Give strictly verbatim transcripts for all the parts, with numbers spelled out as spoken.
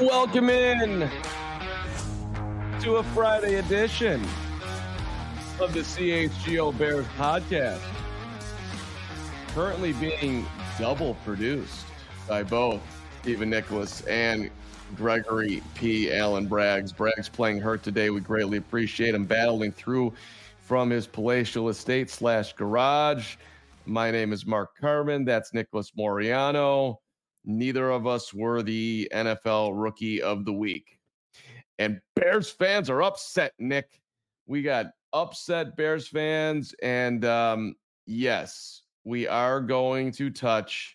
Welcome in to a Friday edition of the C H G O Bears podcast. Currently being double produced by both Stephen Nicholas and Gregory P. Allen Braggs. Braggs playing hurt today. We greatly appreciate him battling through from his palatial estate slash garage. My name is Mark Carman. That's Nicholas Moriano. Neither of us were the N F L Rookie of the Week. And Bears fans are upset, Nick. We got upset Bears fans. And um, yes, we are going to touch.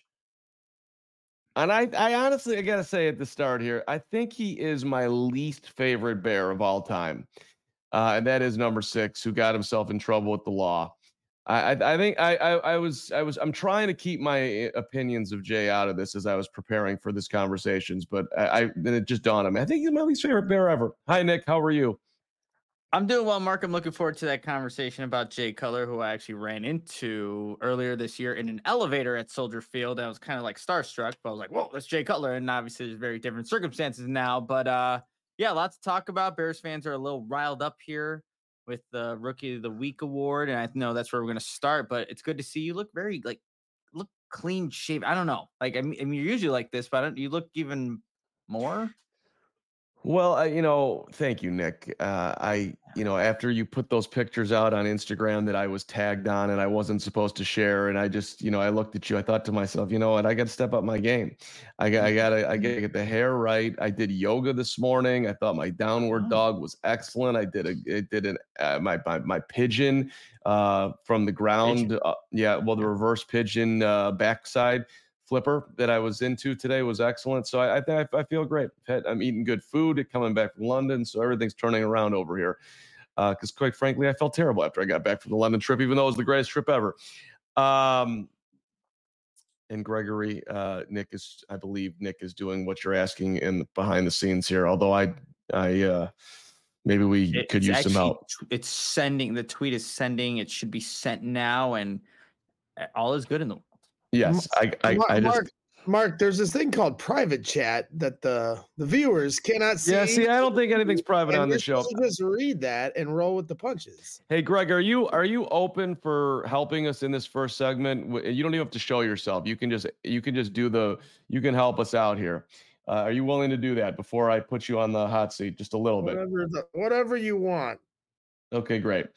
And I, I honestly, I got to say at the start here, I think he is my least favorite Bear of all time. Uh, and that is number six, who got himself in trouble with the law. I, I, I think I, I, I was, I was, I'm trying to keep my opinions of Jay out of this as I was preparing for this conversations, but I, I then it just dawned on me. I think he's my least favorite Bear ever. Hi, Nick. How are you? I'm doing well, Mark. I'm looking forward to that conversation about Jay Cutler, who I actually ran into earlier this year in an elevator at Soldier Field. I was kind of like starstruck, but I was like, whoa, that's Jay Cutler. And obviously there's very different circumstances now, but uh, yeah, lots to talk about. Bears fans are a little riled up here with the Rookie of the Week award. And I know that's where we're going to start, but it's good to see you look very like, look clean shaven. I don't know. Like, I mean, I mean you're usually like this, but I don't, you look even more. Well, I, you know, thank you, Nick. Uh, I, you know, after you put those pictures out on Instagram that I was tagged on and I wasn't supposed to share, and I just, you know, I looked at you, I thought to myself, you know what, I got to step up my game. I got, I got to, I got to get the hair right. I did yoga this morning. I thought my downward dog was excellent. I did a, it did an, uh, my, my, my pigeon uh, from the ground. Uh, yeah, well, the reverse pigeon uh, backside flipper that I was into today was excellent. So I, I think I feel great. I'm eating good food, coming back from London, so everything's turning around over here. Because uh, quite frankly, I felt terrible after I got back from the London trip, even though it was the greatest trip ever. Um, and Gregory, uh, Nick is, I believe Nick is doing what you're asking in the, behind the scenes here. Although I, I uh, maybe we it's could use actually, some help. It's sending. The tweet is sending. It should be sent now, and all is good in the world. Yes, I, I, Mark, I just. Mark, Mark, there's this thing called private chat that the the viewers cannot see. Yeah, see, I don't think anything's private on the show. Just read that and roll with the punches. Hey, Greg, are you are you open for helping us in this first segment? You don't even have to show yourself. You can just you can just do the you can help us out here. Uh, are you willing to do that before I put you on the hot seat just a little whatever bit? The, whatever you want. Okay, great.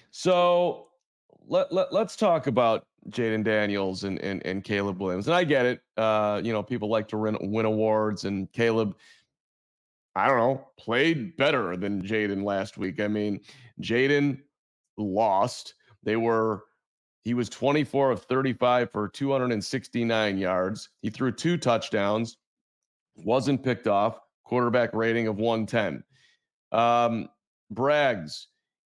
So let, let let's talk about Jayden Daniels and, and and Caleb Williams. And I get it. Uh, you know, people like to win, win awards, and Caleb, I don't know, played better than Jayden last week. I mean, Jayden lost. They were, he was twenty-four of thirty-five for two hundred sixty-nine yards. He threw two touchdowns, wasn't picked off, quarterback rating of one ten. Um, Braggs,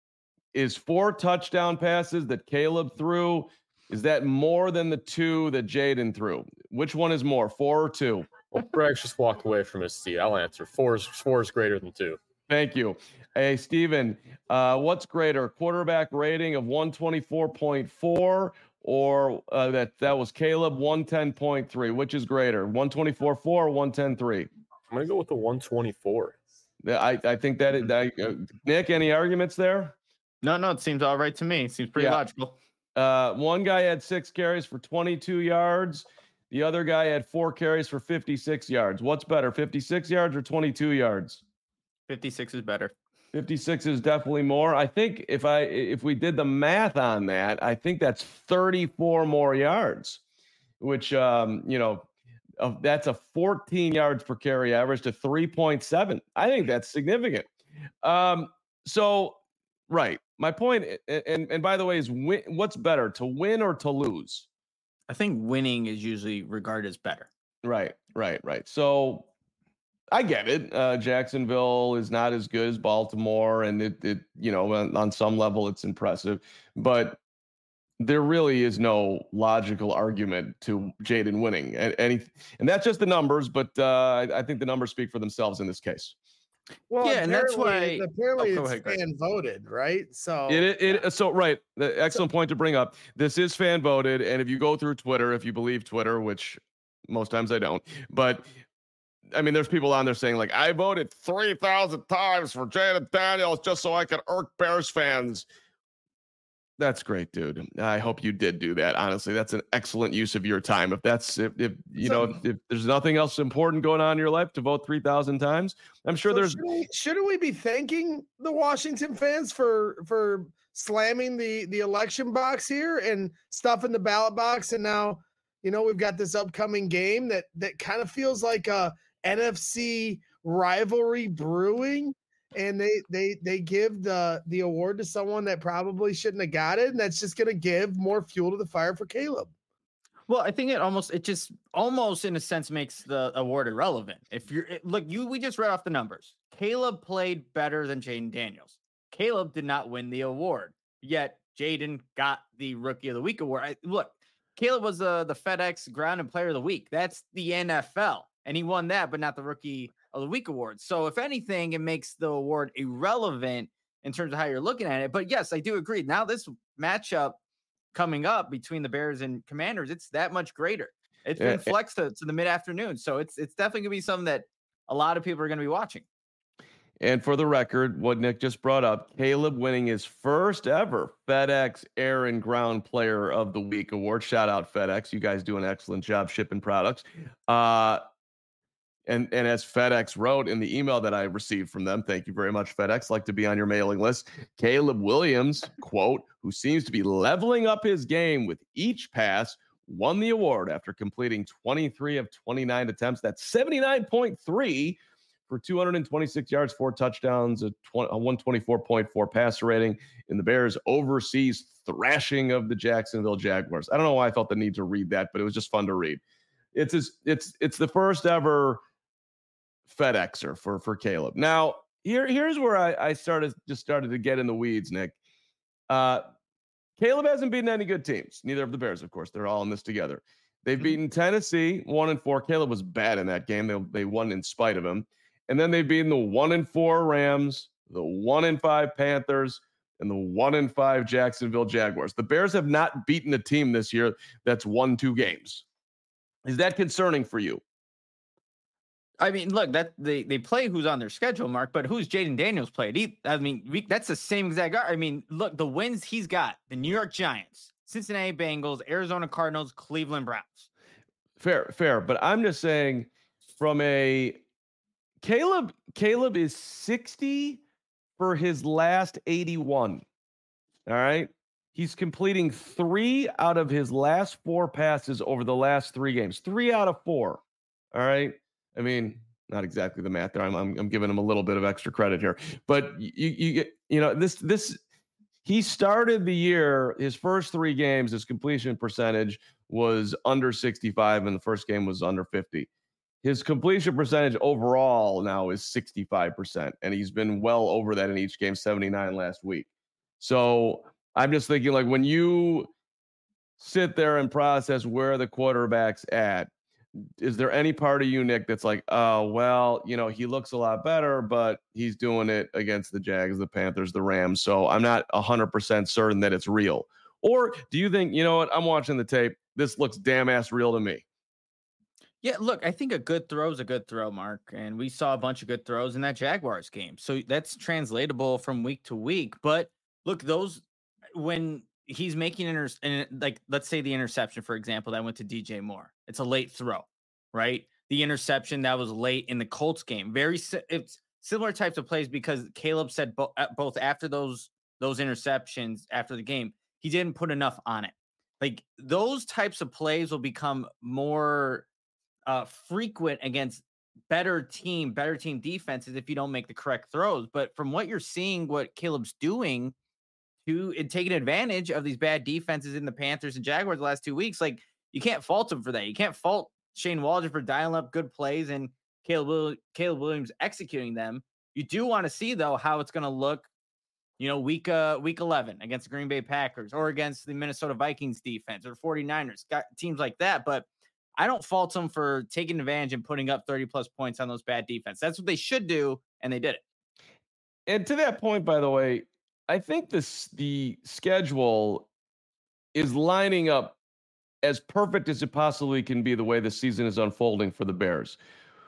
is four touchdown passes that Caleb threw, is that more than the two that Jayden threw? Which one is more, four or two? Well, Braggs just walked away from his seat. I'll answer. Four is, four is greater than two. Thank you. Hey, Steven, uh, what's greater, quarterback rating of one twenty-four point four or uh, that, that was Caleb, one ten point three? Which is greater, one twenty-four point four or one ten point three? I'm going to go with the one twenty-four. I, I think that, it, I, uh, Nick, any arguments there? No, no, it seems all right to me. It seems pretty Yeah. logical. Uh, one guy had six carries for twenty-two yards. The other guy had four carries for fifty-six yards. What's better, fifty-six yards or twenty-two yards? fifty-six is better. fifty-six is definitely more. I think if I if we did the math on that, I think that's thirty-four more yards, which um, you know, uh, that's a fourteen yards per carry average to three point seven. I think that's significant. Um, so right. My point, and, and by the way, is win, what's better, to win or to lose? I think winning is usually regarded as better. Right, right, right. So I get it. Uh, Jacksonville is not as good as Baltimore, and it, it you know, on, on some level, it's impressive. But there really is no logical argument to Jayden winning. And, and, and that's just the numbers, but uh, I, I think the numbers speak for themselves in this case. Well, yeah, and that's why apparently oh, it's ahead, fan voted, right? So it, it, it so right. The excellent point to bring up. This is fan voted, and if you go through Twitter, if you believe Twitter, which most times I don't, but I mean, there's people on there saying like, I voted three thousand times for Jaden Daniels just so I could irk Bears fans. That's great, dude. I hope you did do that. Honestly, that's an excellent use of your time. If that's if, if you so, know if, if there's nothing else important going on in your life to vote three thousand times, I'm sure so there's. Shouldn't we, shouldn't we be thanking the Washington fans for for slamming the the election box here and stuffing the ballot box? And now, you know, we've got this upcoming game that that kind of feels like a N F C rivalry brewing. And they they they give the the award to someone that probably shouldn't have got it, and that's just going to give more fuel to the fire for Caleb. Well, I think it almost it just almost in a sense makes the award irrelevant. If you're it, look, you we just read off the numbers. Caleb played better than Jaden Daniels. Caleb did not win the award, yet Jaden got the Rookie of the Week award. I, look, Caleb was the the FedEx Ground and Player of the Week. That's the N F L, and he won that, but not the Rookie of the Week award. So if anything, it makes the award irrelevant in terms of how you're looking at it. But yes, I do agree. Now this matchup coming up between the Bears and Commanders, it's that much greater. It's been yeah. flexed to, to the mid-afternoon. So it's it's definitely gonna be something that a lot of people are gonna be watching. And for the record, what Nick just brought up, Caleb winning his first ever FedEx Air and Ground Player of the Week award. Shout out FedEx. You guys do an excellent job shipping products. Uh And and as FedEx wrote in the email that I received from them, thank you very much, FedEx, like to be on your mailing list. Caleb Williams, quote, who seems to be leveling up his game with each pass, won the award after completing twenty-three of twenty-nine attempts. That's seventy-nine point three for two hundred twenty-six yards, four touchdowns, a, a one twenty-four point four passer rating in the Bears' overseas thrashing of the Jacksonville Jaguars. I don't know why I felt the need to read that, but it was just fun to read. It's just, it's it's the first ever FedExer for for Caleb. Now, here here's where I, I started just started to get in the weeds, Nick. Uh, Caleb hasn't beaten any good teams. Neither of the Bears, of course. They're all in this together. They've mm-hmm. beaten Tennessee one and four. Caleb was bad in that game. They they won in spite of him. And then they've beaten the one and four Rams, the one and five Panthers, and the one and five Jacksonville Jaguars. The Bears have not beaten a team this year that's won two games. Is that concerning for you? I mean, look, that they, they play who's on their schedule, Mark, but who's Jaden Daniels played? He, I mean, we, that's the same exact guy. I mean, look, the wins he's got, the New York Giants, Cincinnati Bengals, Arizona Cardinals, Cleveland Browns. Fair, fair. But I'm just saying from a Caleb, Caleb is sixty for his last eighty-one. All right. He's completing three out of his last four passes over the last three games, three out of four. All right. I mean, not exactly the math there. I'm, I'm, I'm giving him a little bit of extra credit here, but you, you get, you know, this, this, he started the year, his first three games, his completion percentage was under sixty-five, and the first game was under fifty. His completion percentage overall now is sixty-five percent, and he's been well over that in each game, seventy-nine last week. So I'm just thinking, like, when you sit there and process where the quarterback's at, is there any part of you, Nick, that's like, oh, well, you know, he looks a lot better, but he's doing it against the Jags, the Panthers, the Rams. So I'm not one hundred percent certain that it's real. Or do you think, you know what, I'm watching the tape. This looks damn ass real to me. Yeah, look, I think a good throw is a good throw, Mark. And we saw a bunch of good throws in that Jaguars game. So that's translatable from week to week. But look, those, when he's making, inter- like, let's say the interception, for example, that went to D J Moore. It's a late throw, right? The interception that was late in the Colts game. Very, it's similar types of plays because Caleb said bo- both after those, those interceptions after the game, he didn't put enough on it. Like, those types of plays will become more uh, frequent against better team, better team defenses if you don't make the correct throws. But from what you're seeing, what Caleb's doing to and taking advantage of these bad defenses in the Panthers and Jaguars the last two weeks, like, you can't fault him for that. You can't fault Shane Waldron for dialing up good plays and Caleb, Caleb Williams executing them. You do want to see, though, how it's going to look, you know, week uh, week eleven against the Green Bay Packers or against the Minnesota Vikings defense or forty-niners, got teams like that. But I don't fault them for taking advantage and putting up thirty plus points on those bad defense. That's what they should do, and they did it. And to that point, by the way, I think this the schedule is lining up as perfect as it possibly can be the way the season is unfolding for the Bears.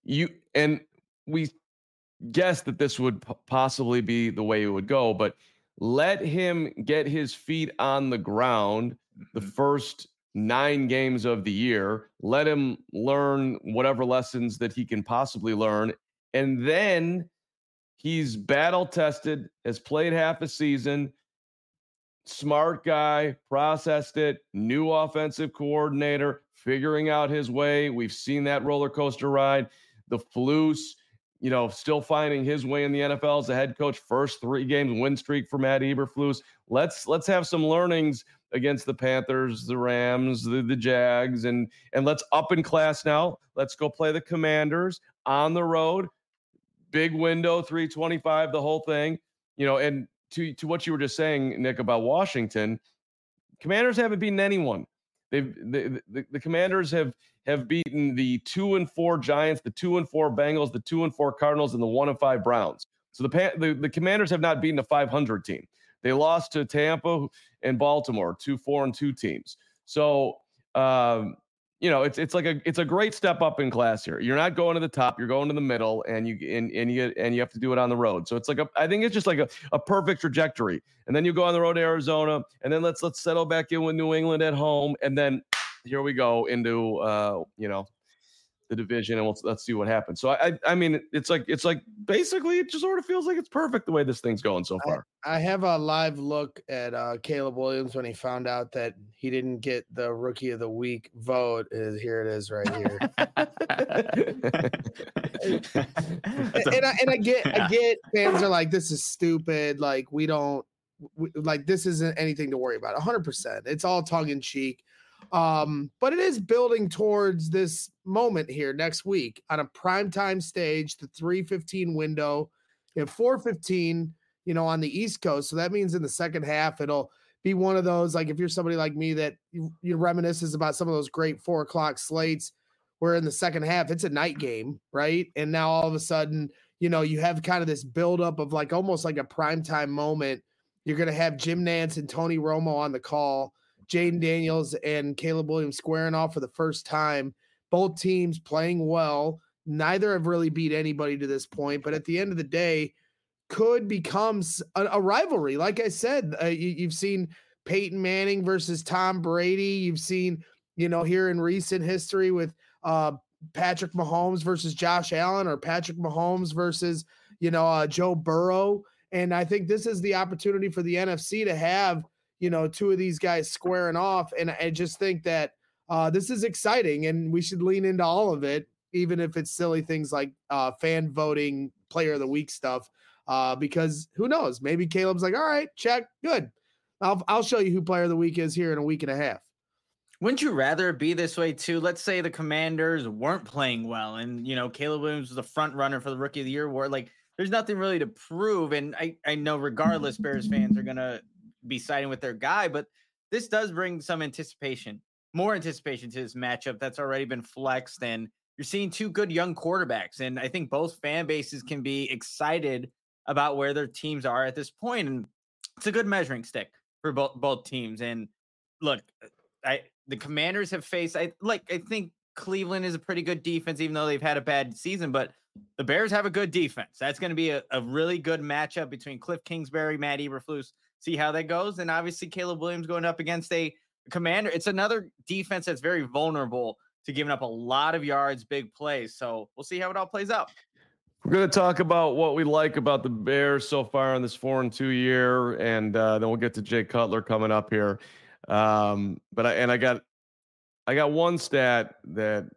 you and we guessed that this would p- possibly be the way it would go, but let him get his feet on the ground the first nine games of the year. Let him learn whatever lessons that he can possibly learn. And then he's battle tested, has played half a season, smart guy, processed it, new offensive coordinator, figuring out his way. We've seen that roller coaster ride. The Flus, you know, still finding his way in the N F L as a head coach. First three games win streak for Matt Eberflus. Let's let's have some learnings against the Panthers, the Rams, the, the Jags, and and let's up in class now. Let's go play the Commanders on the road. Big window, three twenty-five, the whole thing. You know, and to to what you were just saying, Nick, about Washington, Commanders haven't beaten anyone. They've the, the, the Commanders have have beaten the two and four Giants, the two and four Bengals, the two and four Cardinals, and the one and five Browns. So the the, the Commanders have not beaten a five hundred team. They lost to Tampa and Baltimore, two four and two teams. So um, you know, it's it's like a it's a great step up in class here. You're not going to the top, you're going to the middle, and you and, and you and you have to do it on the road. So it's like a I think it's just like a, a perfect trajectory. And then you go on the road to Arizona, and then let's let's settle back in with New England at home, and then here we go into uh, you know, the division, and let's let's see what happens. So I I mean it's like it's like basically it just sort of feels like it's perfect the way this thing's going so far. I, I have a live look at uh, Caleb Williams when he found out that he didn't get the Rookie of the Week vote. Is here it is right here. and, and I and I get I get fans are like, this is stupid. Like we don't we, like this isn't anything to worry about. one hundred percent. It's all tongue in cheek. Um, but it is building towards this moment here next week on a primetime stage, the three fifteen window at four fifteen, you know, on the East Coast. So that means in the second half, it'll be one of those, like if you're somebody like me that you, you reminisces about some of those great four o'clock slates where in the second half, it's a night game, right? And now all of a sudden, you know, you have kind of this buildup of like almost like a primetime moment. You're going to have Jim Nance and Tony Romo on the call. Jaden Daniels and Caleb Williams squaring off for the first time. Both teams playing well. Neither have really beat anybody to this point, but at the end of the day, could become a, a rivalry. Like I said, uh, you, you've seen Peyton Manning versus Tom Brady. You've seen, you know, here in recent history with uh, Patrick Mahomes versus Josh Allen, or Patrick Mahomes versus, you know, uh, Joe Burrow. And I think this is the opportunity for the N F C to have, you know, two of these guys squaring off. And I just think that uh, this is exciting and we should lean into all of it, even if it's silly things like uh, fan voting, player of the week stuff, uh, because who knows, maybe Caleb's like, all right, check, good. I'll, I'll show you who player of the week is here in a week and a half. Wouldn't you rather be this way too? Let's say the Commanders weren't playing well and, you know, Caleb Williams was the front runner for the Rookie of the Year award. Like there's nothing really to prove. And I, I know regardless, Bears fans are going to be siding with their guy, but this does bring some anticipation, more anticipation to this matchup that's already been flexed. And you're seeing two good young quarterbacks. And I think both fan bases can be excited about where their teams are at this point. And it's a good measuring stick for both, both teams. And look, I, the Commanders have faced, I like, I think Cleveland is a pretty good defense, even though they've had a bad season, but the Bears have a good defense. That's going to be a, a really good matchup between Cliff Kingsbury, Matt Eberflus. See how that goes. And obviously Caleb Williams going up against a commander. It's another defense that's very vulnerable to giving up a lot of yards, big plays. So we'll see how it all plays out. We're going to talk about what we like about the Bears so far in this four and two year. And uh, then we'll get to Jay Cutler coming up here. Um, but I, and I got, I got one stat that,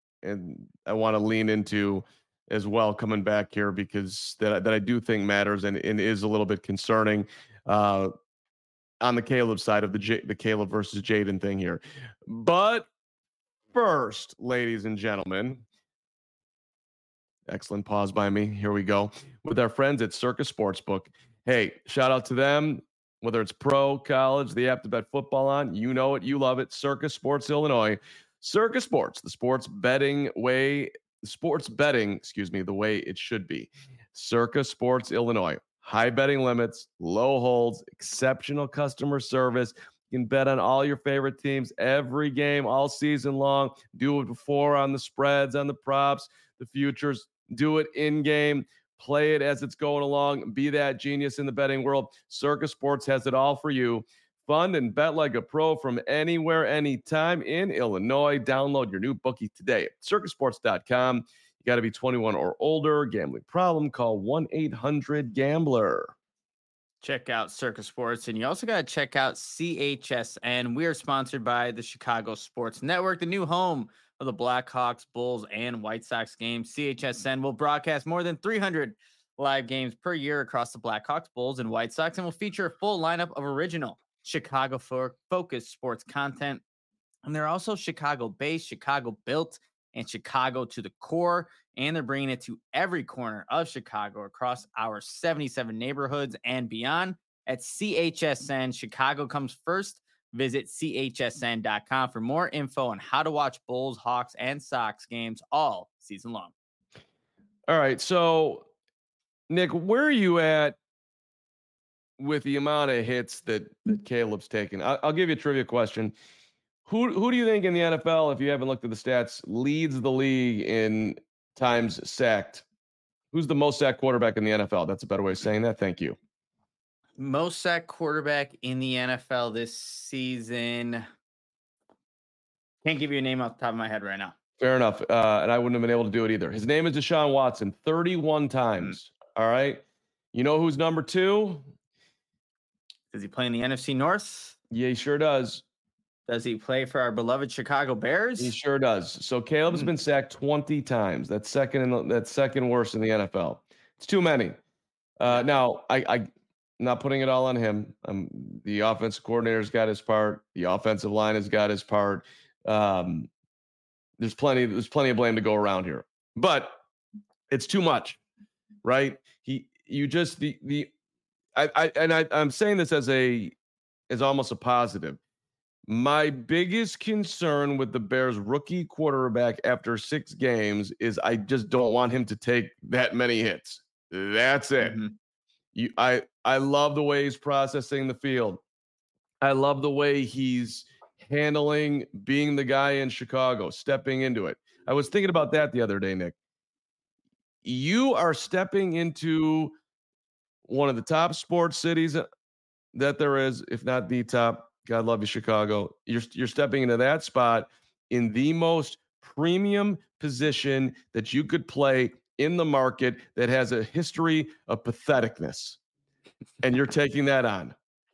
and I want to lean into as well coming back here because that, that I do think matters and, and is a little bit concerning. Uh, on the Caleb side of the J- the Caleb versus Jaden thing here. But first, ladies and gentlemen, excellent pause by me. Here we go with our friends at Circa Sportsbook. Hey, shout out to them. Whether it's pro, college, they have to bet football on. You know it. You love it. Circa Sports Illinois. Circa Sports, the sports betting way, sports betting, excuse me, the way it should be. Circa Sports Illinois. High betting limits, low holds, exceptional customer service. You can bet on all your favorite teams every game, all season long. Do it before on the spreads, on the props. the futures. Do it in game. Play it as it's going along. Be that genius in the betting world. Circa Sports has it all for you. Fund and bet like a pro from anywhere, anytime in Illinois. Download your new bookie today at circa sports dot com. You got to be twenty-one or older. Gambling problem? Call one eight hundred gambler. Check out Circa Sports, and you also got to check out C H S N. We are sponsored by the Chicago Sports Network, the new home of the Blackhawks, Bulls, and White Sox games. C H S N will broadcast more than three hundred live games per year across the Blackhawks, Bulls, and White Sox, and will feature a full lineup of original Chicago-focused sports content. And they're also Chicago-based, Chicago-built, and Chicago to the core. And they're bringing it to every corner of Chicago across our seventy-seven neighborhoods and beyond. At C H S N, Chicago comes first. Visit C H S N dot com for more info on how to watch Bulls, Hawks, and Sox games all season long. All right. So, Nick, where are you at with the amount of hits that, that Caleb's taken? I'll, I'll give you a trivia question. Who, who do you think in the N F L, if you haven't looked at the stats, leads the league in times sacked? Who's the most sacked quarterback in the N F L? That's a better way of saying that. Thank you. Most sacked quarterback in the N F L this season. Can't give you a name off the top of my head right now. Fair enough. Uh, and I wouldn't have been able to do it either. His name is Deshaun Watson, thirty-one times. Mm. All right. You know who's number two? Does he play in the N F C North? Yeah, he sure does. Does he play for our beloved Chicago Bears? He sure does. So Caleb's mm. been sacked twenty times. That's second in the, that's second worst in the N F L. It's too many. Uh, now, I, I not putting it all on him. Um, the offensive coordinator's got his part. The offensive line has got his part. Um, there's plenty. There's plenty of blame to go around here, but it's too much, right? He, you just the the, I, I and I, I'm saying this as a, as almost a positive. My biggest concern with the Bears rookie quarterback after six games is I just don't want him to take that many hits. That's it. Mm-hmm. You, I, I love the way he's processing the field. I love the way he's handling being the guy in Chicago, stepping into it. I was thinking about that the other day, Nick. You are stepping into one of the top sports cities that there is, if not the top. God love you, Chicago. You're, you're stepping into that spot in the most premium position that you could play in the market that has a history of patheticness. And you're taking that on.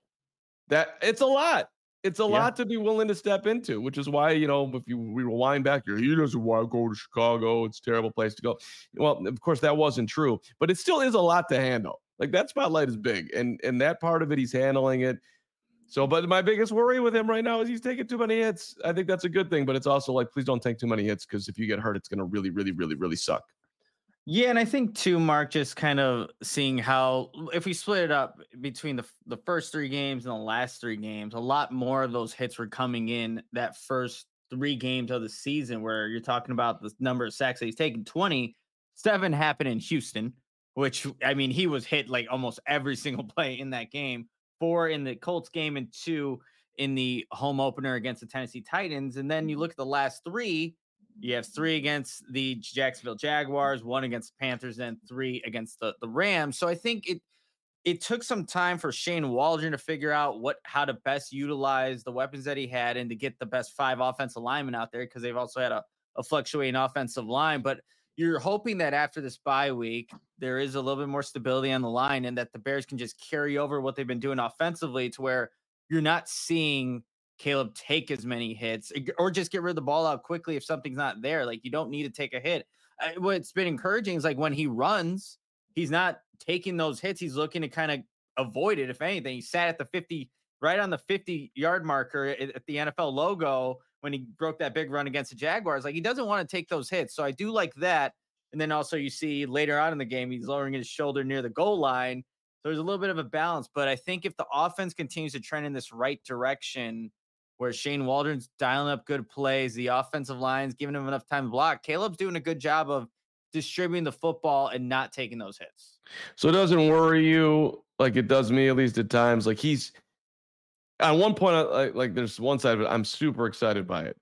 That it's a lot. It's a yeah. lot to be willing to step into, which is why, you know, if you we rewind back here, he doesn't want to go to Chicago. It's a terrible place to go. Well, of course, that wasn't true, but it still is a lot to handle. Like that spotlight is big, and and that part of it, he's handling it. So, but my biggest worry with him right now is he's taking too many hits. I think that's a good thing, but it's also like, please don't take too many hits, because if you get hurt, it's going to really, really, really, really suck. Yeah, and I think too, Mark, just kind of seeing how if we split it up between the the first three games and the last three games, a lot more of those hits were coming in that first three games of the season, where you're talking about the number of sacks that he's taken. twenty-seven happened in Houston, which, I mean, he was hit like almost every single play in that game. Four in the Colts game and two in the home opener against the Tennessee Titans. And then you look at the last three, you have three against the Jacksonville Jaguars, one against the Panthers, and three against the, the Rams. So I think it it took some time for Shane Waldron to figure out what how to best utilize the weapons that he had and to get the best five offensive linemen out there, because they've also had a, a fluctuating offensive line. But you're hoping that after this bye week, there is a little bit more stability on the line and that the Bears can just carry over what they've been doing offensively to where you're not seeing Caleb take as many hits, or just get rid of the ball out quickly if something's not there. Like, you don't need to take a hit. Uh, what's been encouraging is like when he runs, he's not taking those hits. He's looking to kind of avoid it. If anything, he sat at the fifty, right on the fifty yard marker at, at the N F L logo when he broke that big run against the Jaguars. Like, he doesn't want to take those hits. So I do like that. And then also you see later on in the game, he's lowering his shoulder near the goal line. So there's a little bit of a balance. But I think if the offense continues to trend in this right direction, where Shane Waldron's dialing up good plays, the offensive line's giving him enough time to block, Caleb's doing a good job of distributing the football and not taking those hits. So it doesn't worry you like it does me, at least at times. Like, he's at one point, like, like there's one side of it, I'm super excited by it.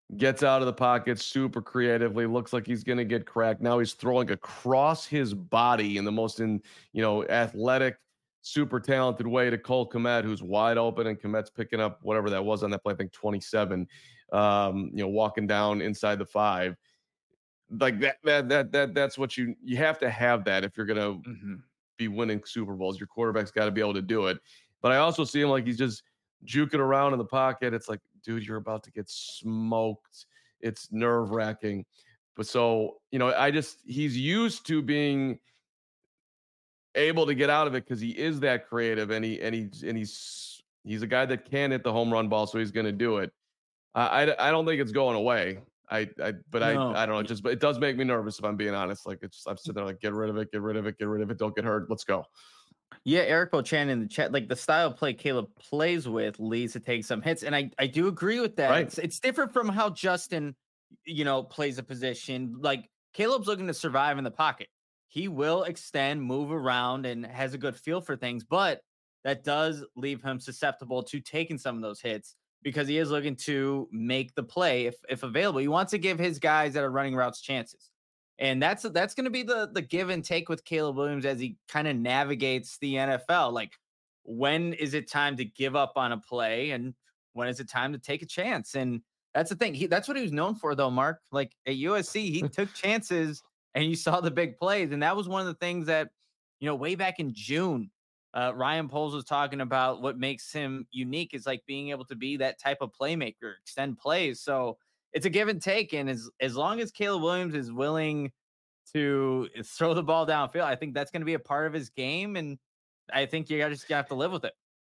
gets out of the pocket super creatively, looks like he's going to get cracked. Now he's throwing across his body in the most, in you know, athletic, super talented way to Cole Kmet, who's wide open, and Kmet's picking up whatever that was on that play, I think twenty-seven, um, you know, walking down inside the five. Like that, that, that, that, that's what you, you have to have that if you're going to mm-hmm. be winning Super Bowls. Your quarterback's got to be able to do it. But I also see him like he's just juking around in the pocket. It's like, dude, you're about to get smoked. It's nerve wracking. But so, you know, I just, he's used to being able to get out of it because he is that creative, and he, and he's, and he's, he's a guy that can hit the home run ball. So he's going to do it. I, I, I don't think it's going away. I, I, but no. I, I don't know. Just, but it does make me nervous if I'm being honest. Like it's, I'm sitting there like, get rid of it, get rid of it, get rid of it. Don't get hurt. Let's go. Yeah, Eric Bochan in the chat, like the style of play Caleb plays with leads to take some hits. And I, I do agree with that. Right. It's, it's different from how Justin, you know, plays a position. Like Caleb's looking to survive in the pocket. He will extend, move around, and has a good feel for things, but that does leave him susceptible to taking some of those hits because he is looking to make the play if, if available. He wants to give his guys that are running routes chances. And that's that's going to be the the give and take with Caleb Williams as he kind of navigates the N F L. Like, when is it time to give up on a play, and when is it time to take a chance? And that's the thing. He that's what he was known for, though, Mark. Like at U S C, he took chances, and you saw the big plays. And that was one of the things that, you know, way back in June, uh, Ryan Poles was talking about. What makes him unique is like being able to be that type of playmaker, extend plays. So it's a give and take, and as as long as Caleb Williams is willing to throw the ball downfield, I think that's going to be a part of his game, and I think you just have to live with it.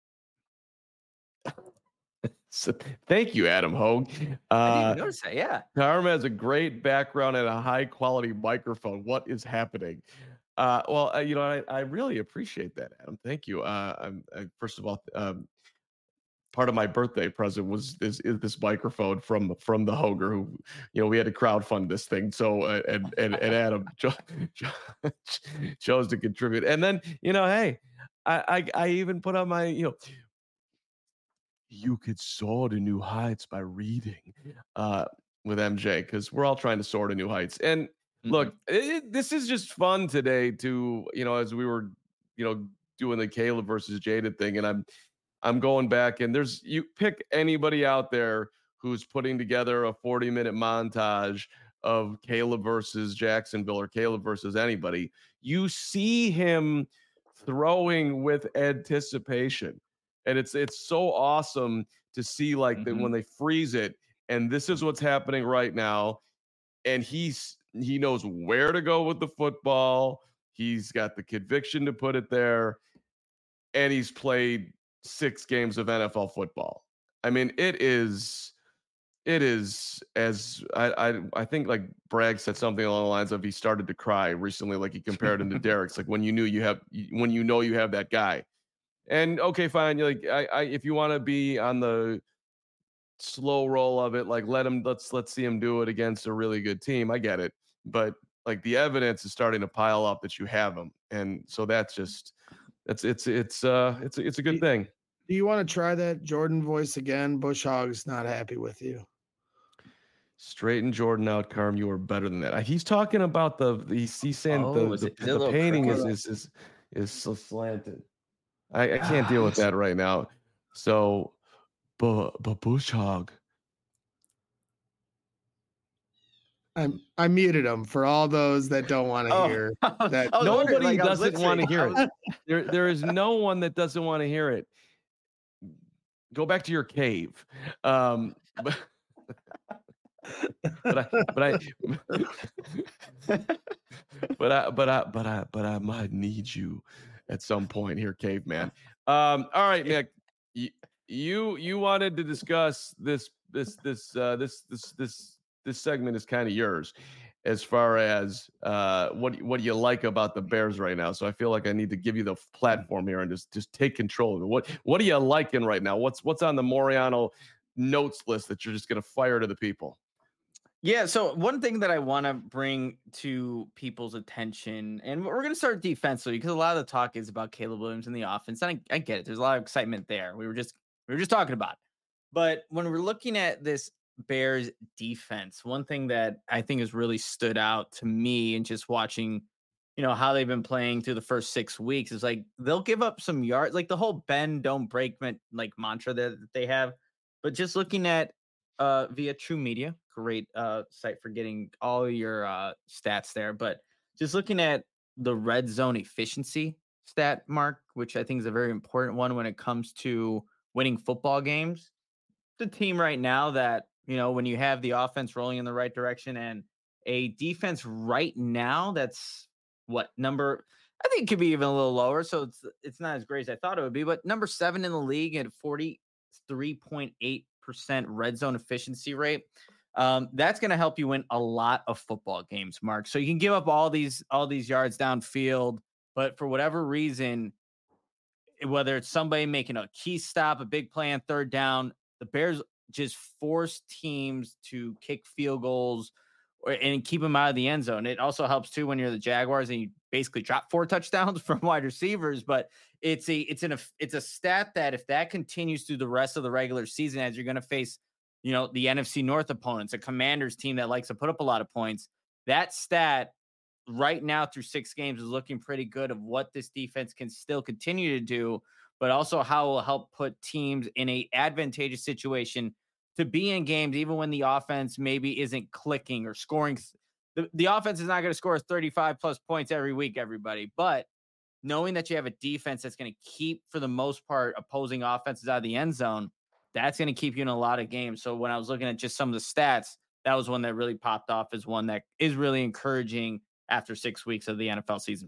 So, thank you, Adam Hogue. Uh, I didn't notice that. Yeah, Carm has a great background and a high quality microphone. What is happening? Uh, well, uh, you know, I, I really appreciate that, Adam. Thank you. Uh, I'm, I, first of all, um, part of my birthday present was this is this microphone from from the Hoger, who, you know, we had to crowdfund this thing. So uh, and and and Adam cho- cho- chose to contribute. And then, you know, hey, I, I I even put on my, you know, you could soar to new heights by reading uh, with M J, because we're all trying to soar to new heights. And mm-hmm. look, it, this is just fun today to, you know, as we were, you know, doing the Caleb versus Jaden thing, and I'm. I'm going back, and there's, you pick anybody out there who's putting together a forty minute montage of Caleb versus Jacksonville or Caleb versus anybody. You see him throwing with anticipation, and it's it's so awesome to see, like, mm-hmm. that when they freeze it, and this is what's happening right now. And he's he knows where to go with the football. He's got the conviction to put it there, and he's played six games of N F L football. I mean, it is, it is as I, I, I think like Bragg said something along the lines of he started to cry recently. Like he compared him to Derek's, like when you knew you have, when you know you have that guy. And okay, fine. You're like, I, I, if you want to be on the slow roll of it, like let him, let's, let's see him do it against a really good team. I get it. But like the evidence is starting to pile up that you have him. And so that's just, It's it's it's uh it's it's a good thing. Do you want to try that Jordan voice again? Bush Hog's not happy with you. Straighten Jordan out, Carm. You are better than that. He's talking about the he's, he's saying oh, the, is the, it, the, the painting is, is is is so slanted. I, I can't deal with that right now. So, but but Bush Hog. I I muted him for all those that don't want to oh, hear that. Nobody like, doesn't want to hear it. There there is no one that doesn't want to hear it. Go back to your cave. Um, but, but I but I but I but I but I but I might need you at some point here, caveman. Um, all right, Nick. You you wanted to discuss this this this uh, this this this. This segment is kind of yours as far as uh, what what do you like about the Bears right now. So I feel like I need to give you the platform here and just, just take control of it. What what are you liking right now? What's what's on the Moriano notes list that you're just going to fire to the people? Yeah, so one thing that I want to bring to people's attention, and we're going to start defensively because a lot of the talk is about Caleb Williams and the offense. And I, I get it. There's a lot of excitement there. We were just we were just talking about it. But when we're looking at this Bears defense, one thing that I think has really stood out to me and just watching, you know, how they've been playing through the first six weeks is like they'll give up some yards, like the whole bend, don't break like mantra that, that they have. But just looking at uh via True Media, great uh site for getting all your uh stats there. But just looking at the red zone efficiency stat, Mark, which I think is a very important one when it comes to winning football games. The team right now that, you know, when you have the offense rolling in the right direction and a defense right now that's what number, I think it could be even a little lower. So it's it's not as great as I thought it would be, but number seven in the league at forty-three point eight percent red zone efficiency rate. Um, that's going to help you win a lot of football games, Mark. So you can give up all these all these yards downfield, but for whatever reason, whether it's somebody making a key stop, a big play on third down, the Bears just force teams to kick field goals or, and keep them out of the end zone. It also helps too when you're the Jaguars and you basically drop four touchdowns from wide receivers. But it's a it's an it's a stat that if that continues through the rest of the regular season, as you're going to face, you know, the N F C North opponents, a Commanders team that likes to put up a lot of points, that stat right now through six games is looking pretty good of what this defense can still continue to do, but also how it will help put teams in a advantageous situation to be in games, even when the offense maybe isn't clicking or scoring. The, the offense is not going to score thirty-five plus points every week, everybody, but knowing that you have a defense that's going to keep, for the most part, opposing offenses out of the end zone, that's going to keep you in a lot of games. So when I was looking at just some of the stats, that was one that really popped off as one that is really encouraging after six weeks of the N F L season.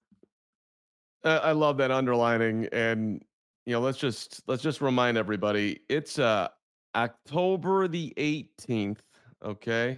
Uh, I love that underlining, and you know, let's just let's just remind everybody it's uh October the eighteenth. Okay.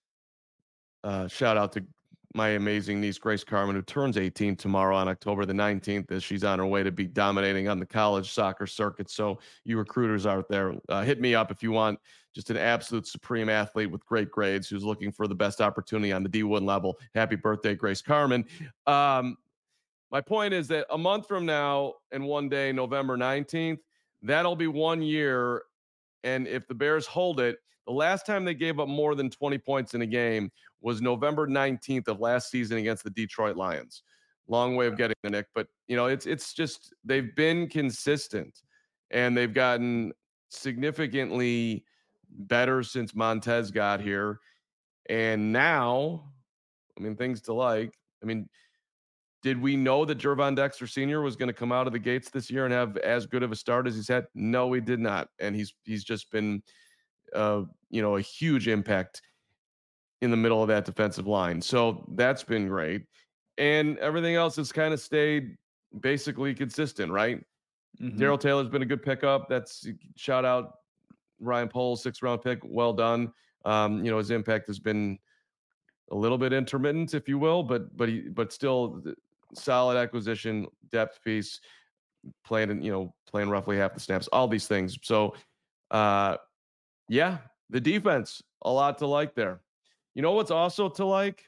Uh, shout out to my amazing niece Grace Carmen, who turns eighteen tomorrow on October the nineteenth, as she's on her way to be dominating on the college soccer circuit. So you recruiters out there, uh, hit me up if you want just an absolute supreme athlete with great grades who's looking for the best opportunity on the D one level. Happy birthday, Grace Carmen. Um, my point is that a month from now and one day, November nineteenth, that'll be one year. And if the Bears hold it, the last time they gave up more than twenty points in a game was November nineteenth of last season against the Detroit Lions. Long way of getting the Nick, but you know, it's it's just they've been consistent and they've gotten significantly better since Montez got here. And now, I mean, things to like. I mean, did we know that Gervon Dexter Senior was going to come out of the gates this year and have as good of a start as he's had? No, we did not. And he's he's just been uh, you know, a huge impact in the middle of that defensive line. So that's been great. And everything else has kind of stayed basically consistent, right? Mm-hmm. Darrell Taylor's been a good pickup. That's shout out Ryan Poles, sixth round pick. Well done. Um, you know, his impact has been a little bit intermittent, if you will, but but he but still solid acquisition, depth piece, playing you know playing roughly half the snaps, all these things. So uh, yeah, the defense, a lot to like there. You know what's also to like?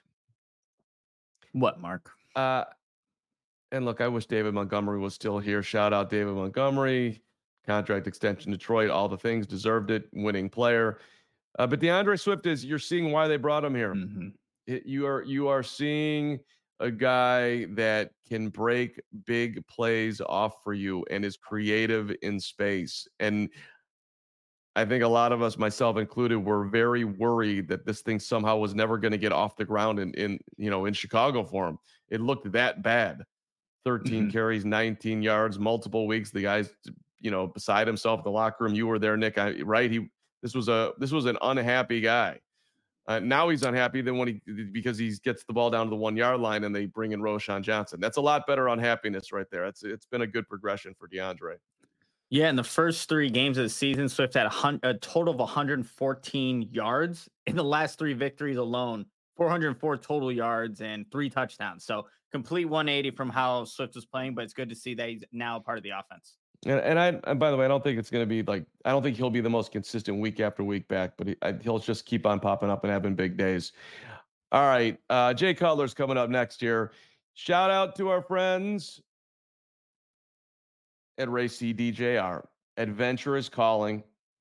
What, Mark? Uh, and look, I wish David Montgomery was still here. Shout out David Montgomery, contract extension, Detroit, all the things, deserved it, winning player. Uh, but DeAndre Swift is, you're seeing why they brought him here. Mm-hmm. It, you are you are seeing a guy that can break big plays off for you and is creative in space. And I think a lot of us, myself included, were very worried that this thing somehow was never going to get off the ground in, in, you know, in Chicago for him. It looked that bad. thirteen mm-hmm. carries, nineteen yards, multiple weeks. The guy's, you know, beside himself in the locker room. You were there, Nick, I, right? He, this was a, this was an unhappy guy. Uh, now he's unhappy than when he, because he gets the ball down to the one yard line and they bring in Roschon Johnson. That's a lot better unhappiness right there. It's, it's been a good progression for DeAndre. Yeah, in the first three games of the season, Swift had a, hun- a total of one hundred fourteen yards in the last three victories alone, four hundred four total yards and three touchdowns. So complete one eighty from how Swift was playing, but it's good to see that he's now a part of the offense. And, and I, and by the way, I don't think it's going to be like, I don't think he'll be the most consistent week after week back, but he, I, he'll just keep on popping up and having big days. All right. Uh, Jay Cutler's coming up next here. Shout out to our friends at Ray C D J R. Adventure is calling.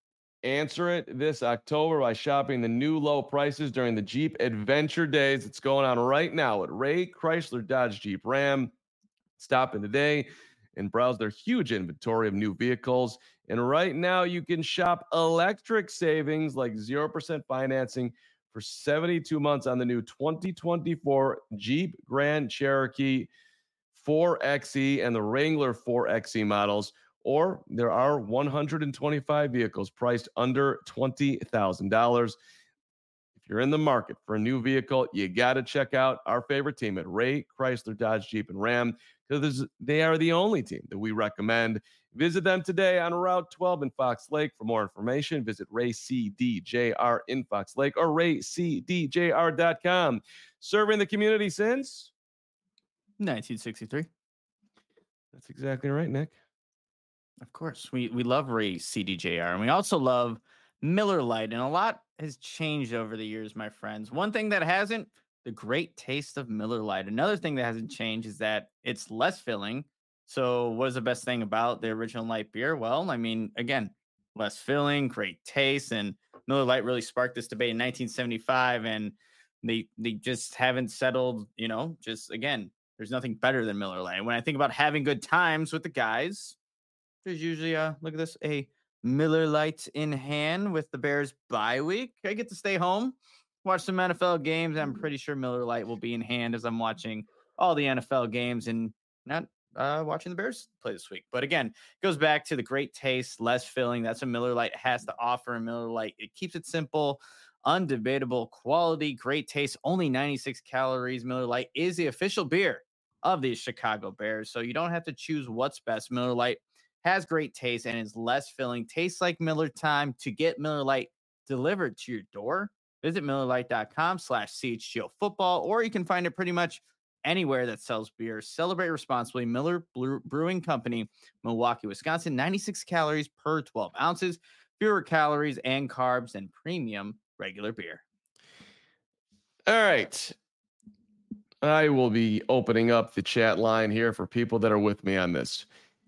Answer it this October by shopping the new low prices during the Jeep Adventure Days. It's going on right now at Ray Chrysler Dodge Jeep Ram. Stop in today and browse their huge inventory of new vehicles. And right now you can shop electric savings like zero percent financing for seventy-two months on the new twenty twenty-four Jeep Grand Cherokee four X E and the Wrangler four X E models. Or there are one hundred twenty-five vehicles priced under twenty thousand dollars. If you're in the market for a new vehicle, you got to check out our favorite team at Ray Chrysler Dodge Jeep and Ram, because they are the only team that we recommend. Visit them today on Route twelve in Fox Lake. For more information, visit Ray C D J R in Fox Lake or ray c d j r dot com. Serving the community since nineteen sixty-three. That's exactly right, Nick. Of course, we we love Ray C D J R, and we also love Miller Lite, and a lot has changed over the years, my friends. One thing that hasn't, the great taste of Miller Lite. Another thing that hasn't changed is that it's less filling. So what is the best thing about the original light beer? Well, I mean, again, less filling, great taste, and Miller Lite really sparked this debate in nineteen seventy-five, and they they just haven't settled, you know, just again, there's nothing better than Miller Lite. When I think about having good times with the guys, there's usually a, look at this, a Miller Lite in hand with the Bears bye week. I get to stay home, watch some N F L games. I'm pretty sure Miller Lite will be in hand as I'm watching all the N F L games and not uh, watching the Bears play this week. But again, it goes back to the great taste, less filling. That's what Miller Lite has to offer. And Miller Lite, it keeps it simple, undebatable quality, great taste, only ninety-six calories. Miller Lite is the official beer of the Chicago Bears. So you don't have to choose what's best. Miller Lite has great taste and is less filling. Tastes like Miller time. To get Miller Lite delivered to your door, visit miller lite dot com slash C H G O football, or you can find it pretty much anywhere that sells beer. Celebrate responsibly. Miller Brewing Company, Milwaukee, Wisconsin. ninety-six calories per twelve ounces, fewer calories and carbs than premium regular beer. All right. I will be opening up the chat line here for people that are with me on this.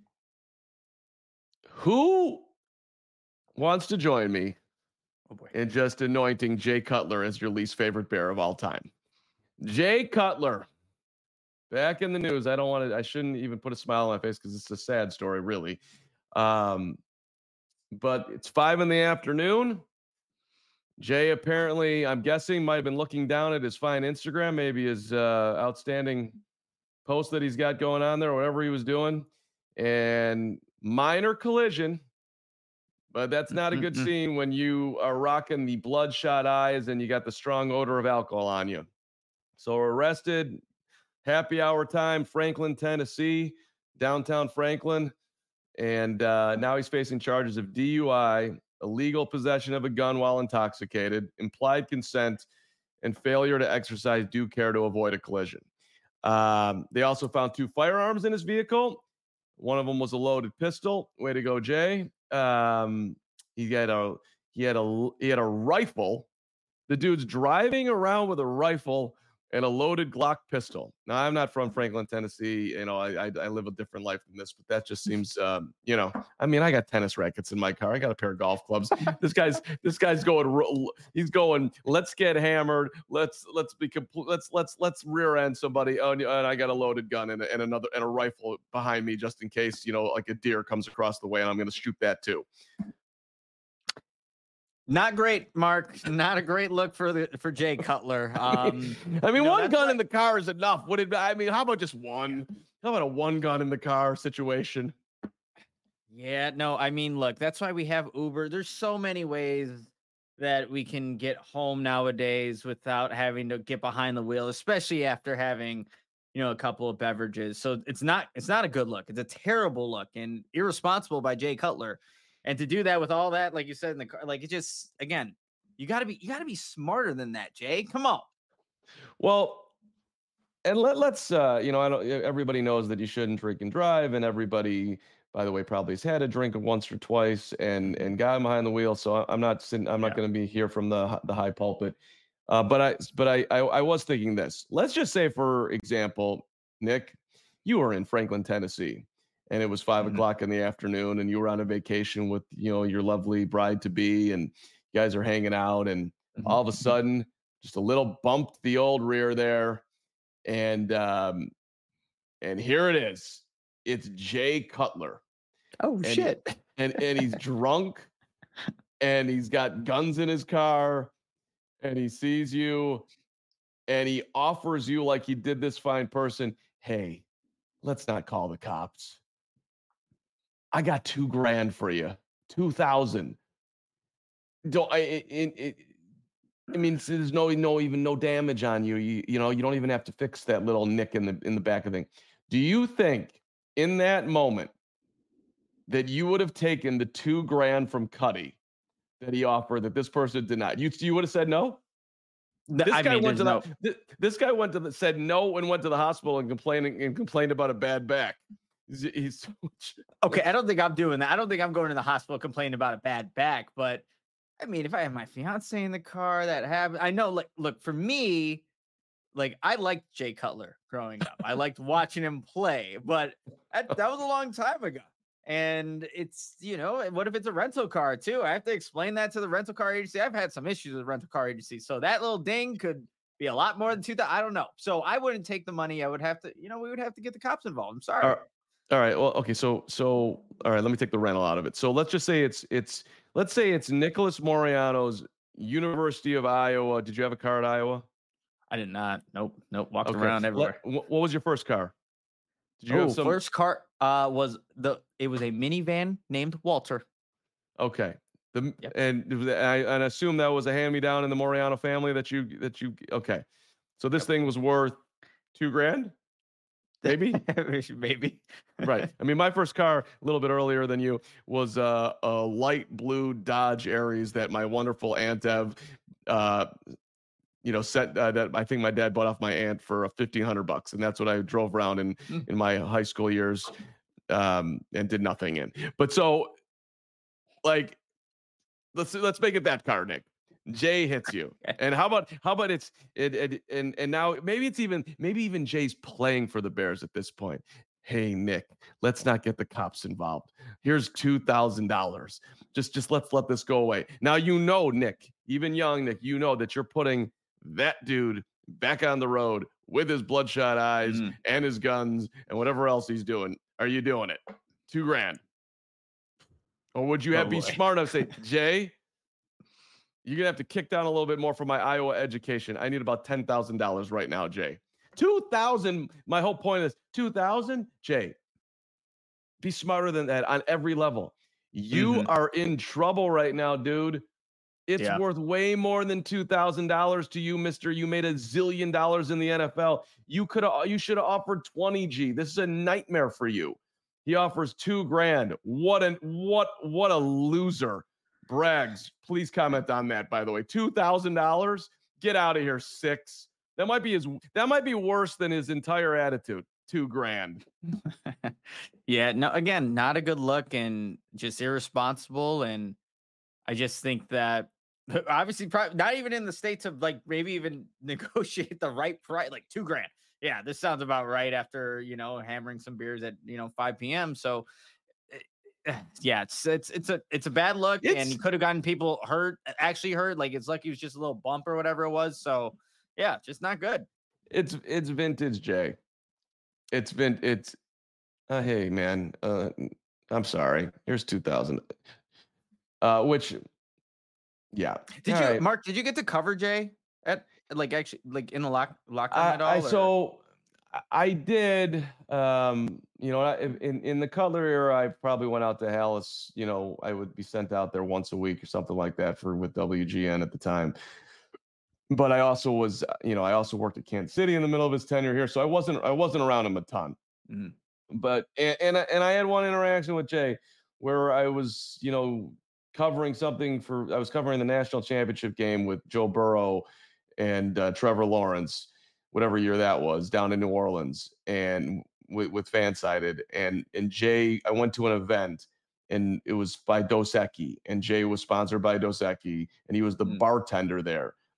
Who wants to join me oh boy. in just anointing Jay Cutler as your least favorite Bear of all time? Jay Cutler, back in the news. I don't want to, I shouldn't even put a smile on my face because it's a sad story, really. Um, but it's five in the afternoon. Jay apparently, I'm guessing, might have been looking down at his fine Instagram, maybe his uh, outstanding post that he's got going on there, or whatever he was doing. And minor collision, but that's not a good scene when you are rocking the bloodshot eyes and you got the strong odor of alcohol on you. So arrested, happy hour time, Franklin, Tennessee, downtown Franklin. And uh, now he's facing charges of D U I, illegal possession of a gun while intoxicated, implied consent, and failure to exercise due care to avoid a collision. Um, they also found two firearms in his vehicle. One of them was a loaded pistol. Way to go, Jay. Um, he had a he had a he had a rifle. The dude's driving around with a rifle and a loaded Glock pistol. Now, I'm not from Franklin, Tennessee. You know, I I, I live a different life than this, but that just seems, um, you know, I mean, I got tennis rackets in my car. I got a pair of golf clubs. This guy's this guy's going. He's going. Let's get hammered. Let's let's be complete. Let's let's let's rear end somebody. Oh, and I got a loaded gun and, and another and a rifle behind me just in case, you know, like a deer comes across the way and I'm going to shoot that too. Not great, Mark. Not a great look for the for Jay Cutler. Um, I mean, you know, one gun why- in the car is enough. Would it? I mean, how about just one? How about a one gun in the car situation? Yeah, no, I mean, look, that's why we have Uber. There's so many ways that we can get home nowadays without having to get behind the wheel, especially after having, you know, a couple of beverages. So it's not it's not a good look. It's a terrible look and irresponsible by Jay Cutler. And to do that with all that, like you said in the car, like it just, again, you gotta be, you gotta be smarter than that, Jay. Come on. Well, and let, let's, uh, you know, I don't, everybody knows that you shouldn't drink and drive, and everybody, by the way, probably has had a drink once or twice and, and got behind the wheel. So I'm not sitting, I'm not Yeah. going to be here from the, the high pulpit. Uh, but I, but I, I, I was thinking this. Let's just say, for example, Nick, you were in Franklin, Tennessee, and it was five Mhm. o'clock in the afternoon, and you were on a vacation with, you know, your lovely bride to be, and you guys are hanging out, and Mhm. all of a Mhm. sudden, just a little bumped the old rear there, and um, and here it is. It's Jay Cutler, Oh and he, shit. and and he's drunk, and he's got guns in his car, and he sees you, and he offers you, like he did this fine person, hey, let's not call the cops. I got two grand for you, two thousand. Don't I? It, it, it, I mean, so there's no, no, even no damage on you. You, you know, you don't even have to fix that little nick in the in the back of the thing. Do you think in that moment that you would have taken the two grand from Cuddy that he offered that this person did not? You you would have said no. No, This I guy mean, went there's to no. the th- this guy went to the said no and went to the hospital and complaining and complained about a bad back. He's, he's so much- Okay, I don't think I'm doing that. I don't think I'm going to the hospital complaining about a bad back. But I mean, if I have my fiance in the car, that happened. I know. Like, look, for me, like I liked Jay Cutler growing up. I liked watching him play, but that, that was a long time ago. And it's, you know, what if it's a rental car too? I have to explain that to the rental car agency. I've had some issues with rental car agency. So that little ding could be a lot more than two thousand. I don't know. So I wouldn't take the money. I would have to, you know, we would have to get the cops involved. I'm sorry. All right. All right. Well, okay. So, so, all right. Let me take the rental out of it. So let's just say it's, it's, let's say it's Nicholas Moriano's University of Iowa. Did you have a car at Iowa? I did not. Nope. Nope. Walked Okay. around everywhere. Let, wh- what was your first car? Did you Oh, have some? first car uh was the it was a minivan named Walter. Okay. The, Yep. and it was- I, and I assume that was a hand me down in the Moriano family that you, that you, okay. So this thing was worth two grand? Maybe. Maybe. Right. I mean, my first car, a little bit earlier than you, was uh, a light blue Dodge Aries that my wonderful Aunt Ev, uh, you know, set uh, that I think my dad bought off my aunt for fifteen hundred bucks, and that's what I drove around in Mm. in my high school years, um, and did nothing in. But so, like, let's let's make it that car, Nick. Jay hits you, and how about how about it's it, it and and now maybe it's even maybe even Jay's playing for the Bears at this point. Hey Nick, let's not get the cops involved. Here's two thousand dollars. Just just let's let this go away. Now you know, Nick, even young Nick, you know that you're putting that dude back on the road with his bloodshot eyes Mm. and his guns and whatever else he's doing. Are you doing it? Two grand. Or would you have Oh, be boy. smart enough to say, Jay, you're gonna have to kick down a little bit more for my Iowa education. I need about ten thousand dollars right now, Jay. Two thousand. My whole point is two thousand. Jay, be smarter than that on every level. You Mhm. are in trouble right now, dude. It's Yeah. worth way more than two thousand dollars to you, Mister. You made a zillion dollars in the N F L. You could have. You should have offered twenty G. This is a nightmare for you. He offers two grand. What an what what a loser. Braggs, please comment on that, by the way. two thousand dollars? Get out of here, six. That might be his that might be worse than his entire attitude. Two grand. Yeah, no, again, not a good look and just irresponsible. And I just think that obviously, probably not even in the states of like maybe even negotiate the right price, like two grand. Yeah, this sounds about right after, you know, hammering some beers at, you know, five p.m. So eh, yeah, it's it's it's a it's a bad look, and It's he could have gotten people hurt, actually hurt. Like it's like he was just a little bump or whatever it was. So yeah, just not good. it's it's vintage, Jay. It's vin it's uh, hey man, uh I'm sorry. Here's two thousand. Uh which yeah. Did All you, right. Mark? Did you get to cover Jay at like actually like in the lock locker room at all? I, I or- so I- I did um you know I- in in the Cutler era I probably went out to Hallis, you know, I would be sent out there once a week or something like that for with W G N at the time. But I also was, uh, you know, I also worked at Kansas City in the middle of his tenure here, so I wasn't I wasn't around him a ton. Mhm. But and and I, and I had one interaction with Jay where I was, you know, covering something for I was covering the national championship game with Joe Burrow and uh, Trevor Lawrence, whatever year that was, down in New Orleans, and with, with Fansided, and and Jay, I went to an event, and it was by Dos Equis, and Jay was sponsored by Dos Equis, and he was the Mm. bartender there.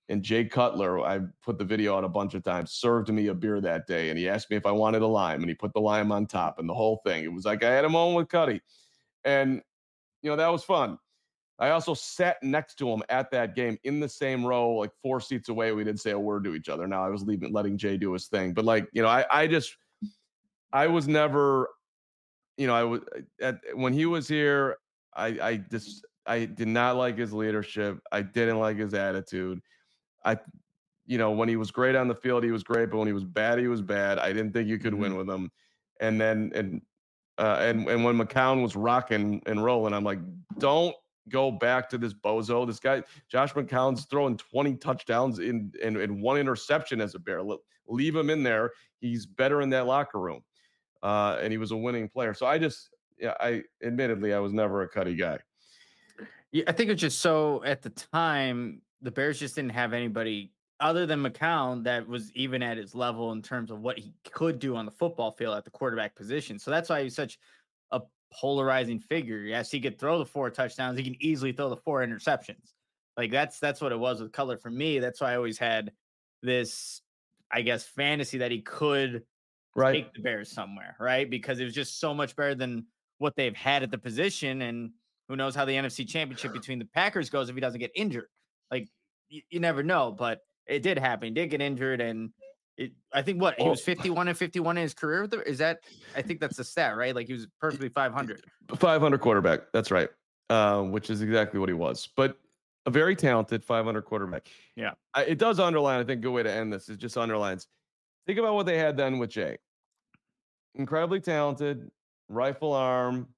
and Jay Cutler, I put the video out a bunch of times, served me a beer that day, and he asked me if I wanted a lime, and he put the lime on top, and the whole thing. It was like I had a moment with Cuddy, and you know that was fun. I also sat next to him at that game in the same row, like four seats away. We didn't say a word to each other. Now I was leaving, letting Jay do his thing, but like you know, I I just I was never, you know, I was at when he was here. I I just I did not like his leadership. I didn't like his attitude. I, you know, when he was great on the field, he was great, but when he was bad, he was bad. I didn't think you could mm-hmm. win with him. And then, and, uh, and, and when McCown was rocking and rolling, I'm like, don't go back to this bozo. This guy, Josh McCown's throwing twenty touchdowns in, in, in one interception as a Bear. Leave him in there. He's better in that locker room. Uh, and he was a winning player. So I just, yeah, I admittedly, I was never a Cuddy guy. Yeah, I think it's just so at the time, the Bears just didn't have anybody other than McCown that was even at his level in terms of what he could do on the football field at the quarterback position. So that's why he's such a polarizing figure. Yes, he could throw the four touchdowns. He can easily throw the four interceptions. Like that's that's what it was with Cutler for me. That's why I always had this, I guess, fantasy that he could right. take the Bears somewhere, right? Because it was just so much better than what they've had at the position. And who knows how the N F C Championship between the Packers goes if he doesn't get injured. Like, you, you never know, but it did happen. He did get injured, and it, I think what, he was fifty-one and fifty-one in his career with the, is that, I think that's the stat, right? Like, he was perfectly five hundred. five hundred quarterback, that's right, uh, which is exactly what he was. But a very talented five hundred quarterback. Yeah. I, it does underline, I think a good way to end this is just underlines. Think about what they had then with Jay. Incredibly talented, rifle arm,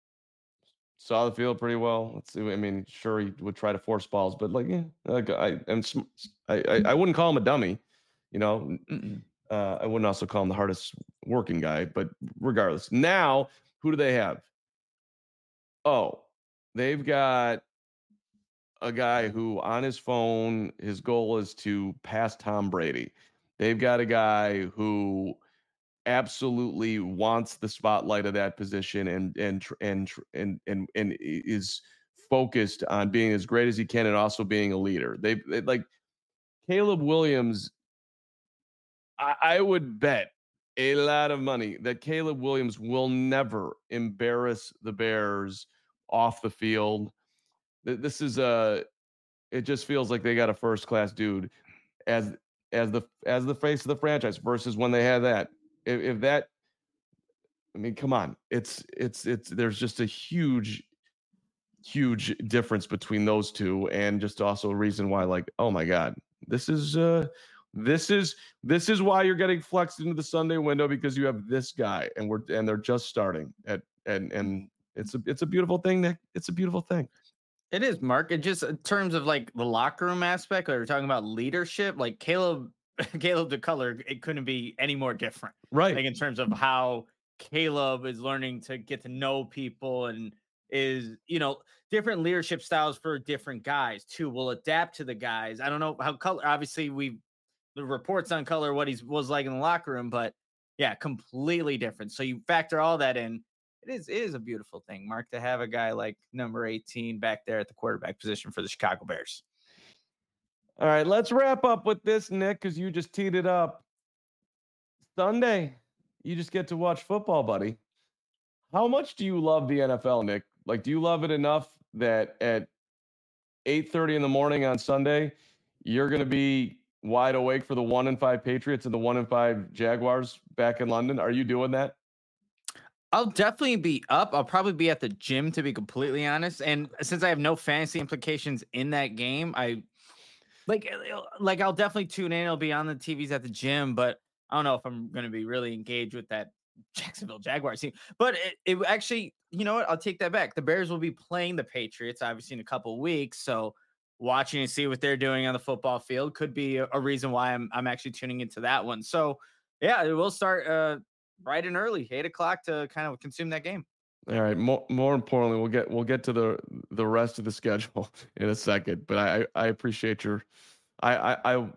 saw the field pretty well. Let's see. I mean, sure he would try to force balls, but like, yeah, like I and I, I, I wouldn't call him a dummy. You know, uh, I wouldn't also call him the hardest working guy. But regardless, now who do they have? Oh, they've got a guy who on his phone, his goal is to pass Tom Brady. They've got a guy who absolutely wants the spotlight of that position and and and and and and is focused on being as great as he can and also being a leader. They, they like Caleb Williams. I, I would bet a lot of money that Caleb Williams will never embarrass the Bears off the field. This is a. It just feels like they got a first class dude as as the as the face of the franchise versus when they had that. If, if that, I mean, come on, it's it's it's there's just a huge, huge difference between those two, and just also a reason why, like, oh my God, this is uh, this is this is why you're getting flexed into the Sunday window because you have this guy, and we're and they're just starting at and and it's a it's a beautiful thing, Nick. It's a beautiful thing. It is, Mark. And just in terms of like the locker room aspect, like we're talking about leadership, like Caleb. Caleb DeColor, it couldn't be any more different, right? Like in terms of how Caleb is learning to get to know people and is, you know, different leadership styles for different guys too. Will adapt to the guys. I don't know how Color. Obviously, we the reports on Color what he was like in the locker room, but yeah, completely different. So you factor all that in. It is it is a beautiful thing, Mark, to have a guy like number eighteen back there at the quarterback position for the Chicago Bears. All right, let's wrap up with this, Nick, because you just teed it up. Sunday, you just get to watch football, buddy. How much do you love the N F L, Nick? Like, do you love it enough that at eight thirty in the morning on Sunday, you're going to be wide awake for the one and five Patriots and the one and five Jaguars back in London? Are you doing that? I'll definitely be up. I'll probably be at the gym, to be completely honest. And since I have no fantasy implications in that game, I like like I'll definitely tune in. It'll be on the T Vs at the gym, but I don't know if I'm going to be really engaged with that Jacksonville Jaguars team. But it, it actually, you know what? I'll take that back. The Bears will be playing the Patriots, obviously, in a couple of weeks. So watching and see what they're doing on the football field could be a, a reason why I'm I'm actually tuning into that one. So yeah, it will start uh, bright and early, eight o'clock to kind of consume that game. All right. More, more importantly, we'll get we'll get to the the rest of the schedule in a second. But I I appreciate your, I I I,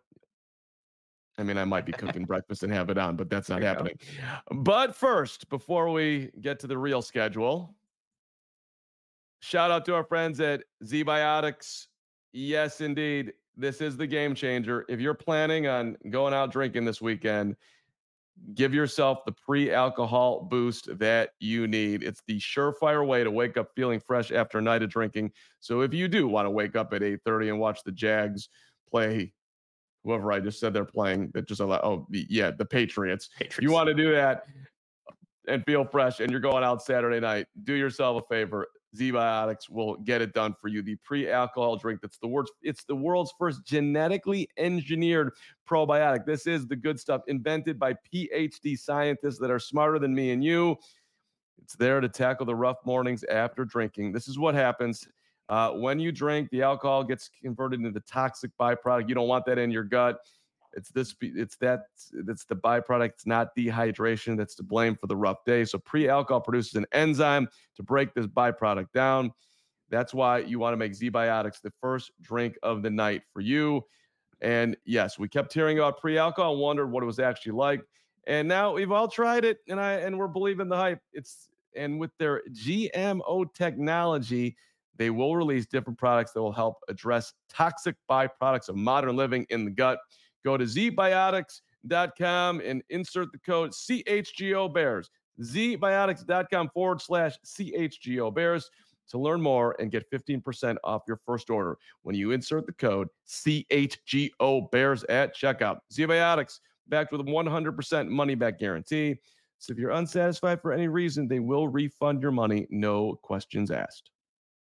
I mean I might be cooking breakfast and have it on, but that's not happening. Go. But first, before we get to the real schedule, shout out to our friends at ZBiotics. Yes, indeed, this is the game changer. If you're planning on going out drinking this weekend, give yourself the pre-alcohol boost that you need. It's the surefire way to wake up feeling fresh after a night of drinking. So if you do want to wake up at eight thirty and watch the Jags play whoever I just said they're playing, that just allow, oh, yeah, the Patriots. Patriots. You want to do that and feel fresh and you're going out Saturday night, do yourself a favor. ZBiotics will get it done for you. The pre-alcohol drink that's the world's it's the world's first genetically engineered probiotic. This is the good stuff invented by P H D scientists that are smarter than me and you. It's there to tackle the rough mornings after drinking. This is what happens. Uh, when you drink, the alcohol gets converted into toxic byproduct. You don't want that in your gut. It's this. It's that. It's the byproduct. It's not dehydration that's to blame for the rough day. So pre-alcohol produces an enzyme to break this byproduct down. That's why you want to make ZBiotics the first drink of the night for you. And yes, we kept hearing about pre-alcohol and wondered what it was actually like. And now we've all tried it, and I and we're believing the hype. It's and with their G M O technology, they will release different products that will help address toxic byproducts of modern living in the gut. Go to z biotics dot com and insert the code C H G O Bears. z biotics dot com forward slash C H G O Bears to learn more and get fifteen percent off your first order when you insert the code C H G O Bears at checkout. ZBiotics, backed with a one hundred percent money back guarantee. So if you're unsatisfied for any reason, they will refund your money, no questions asked.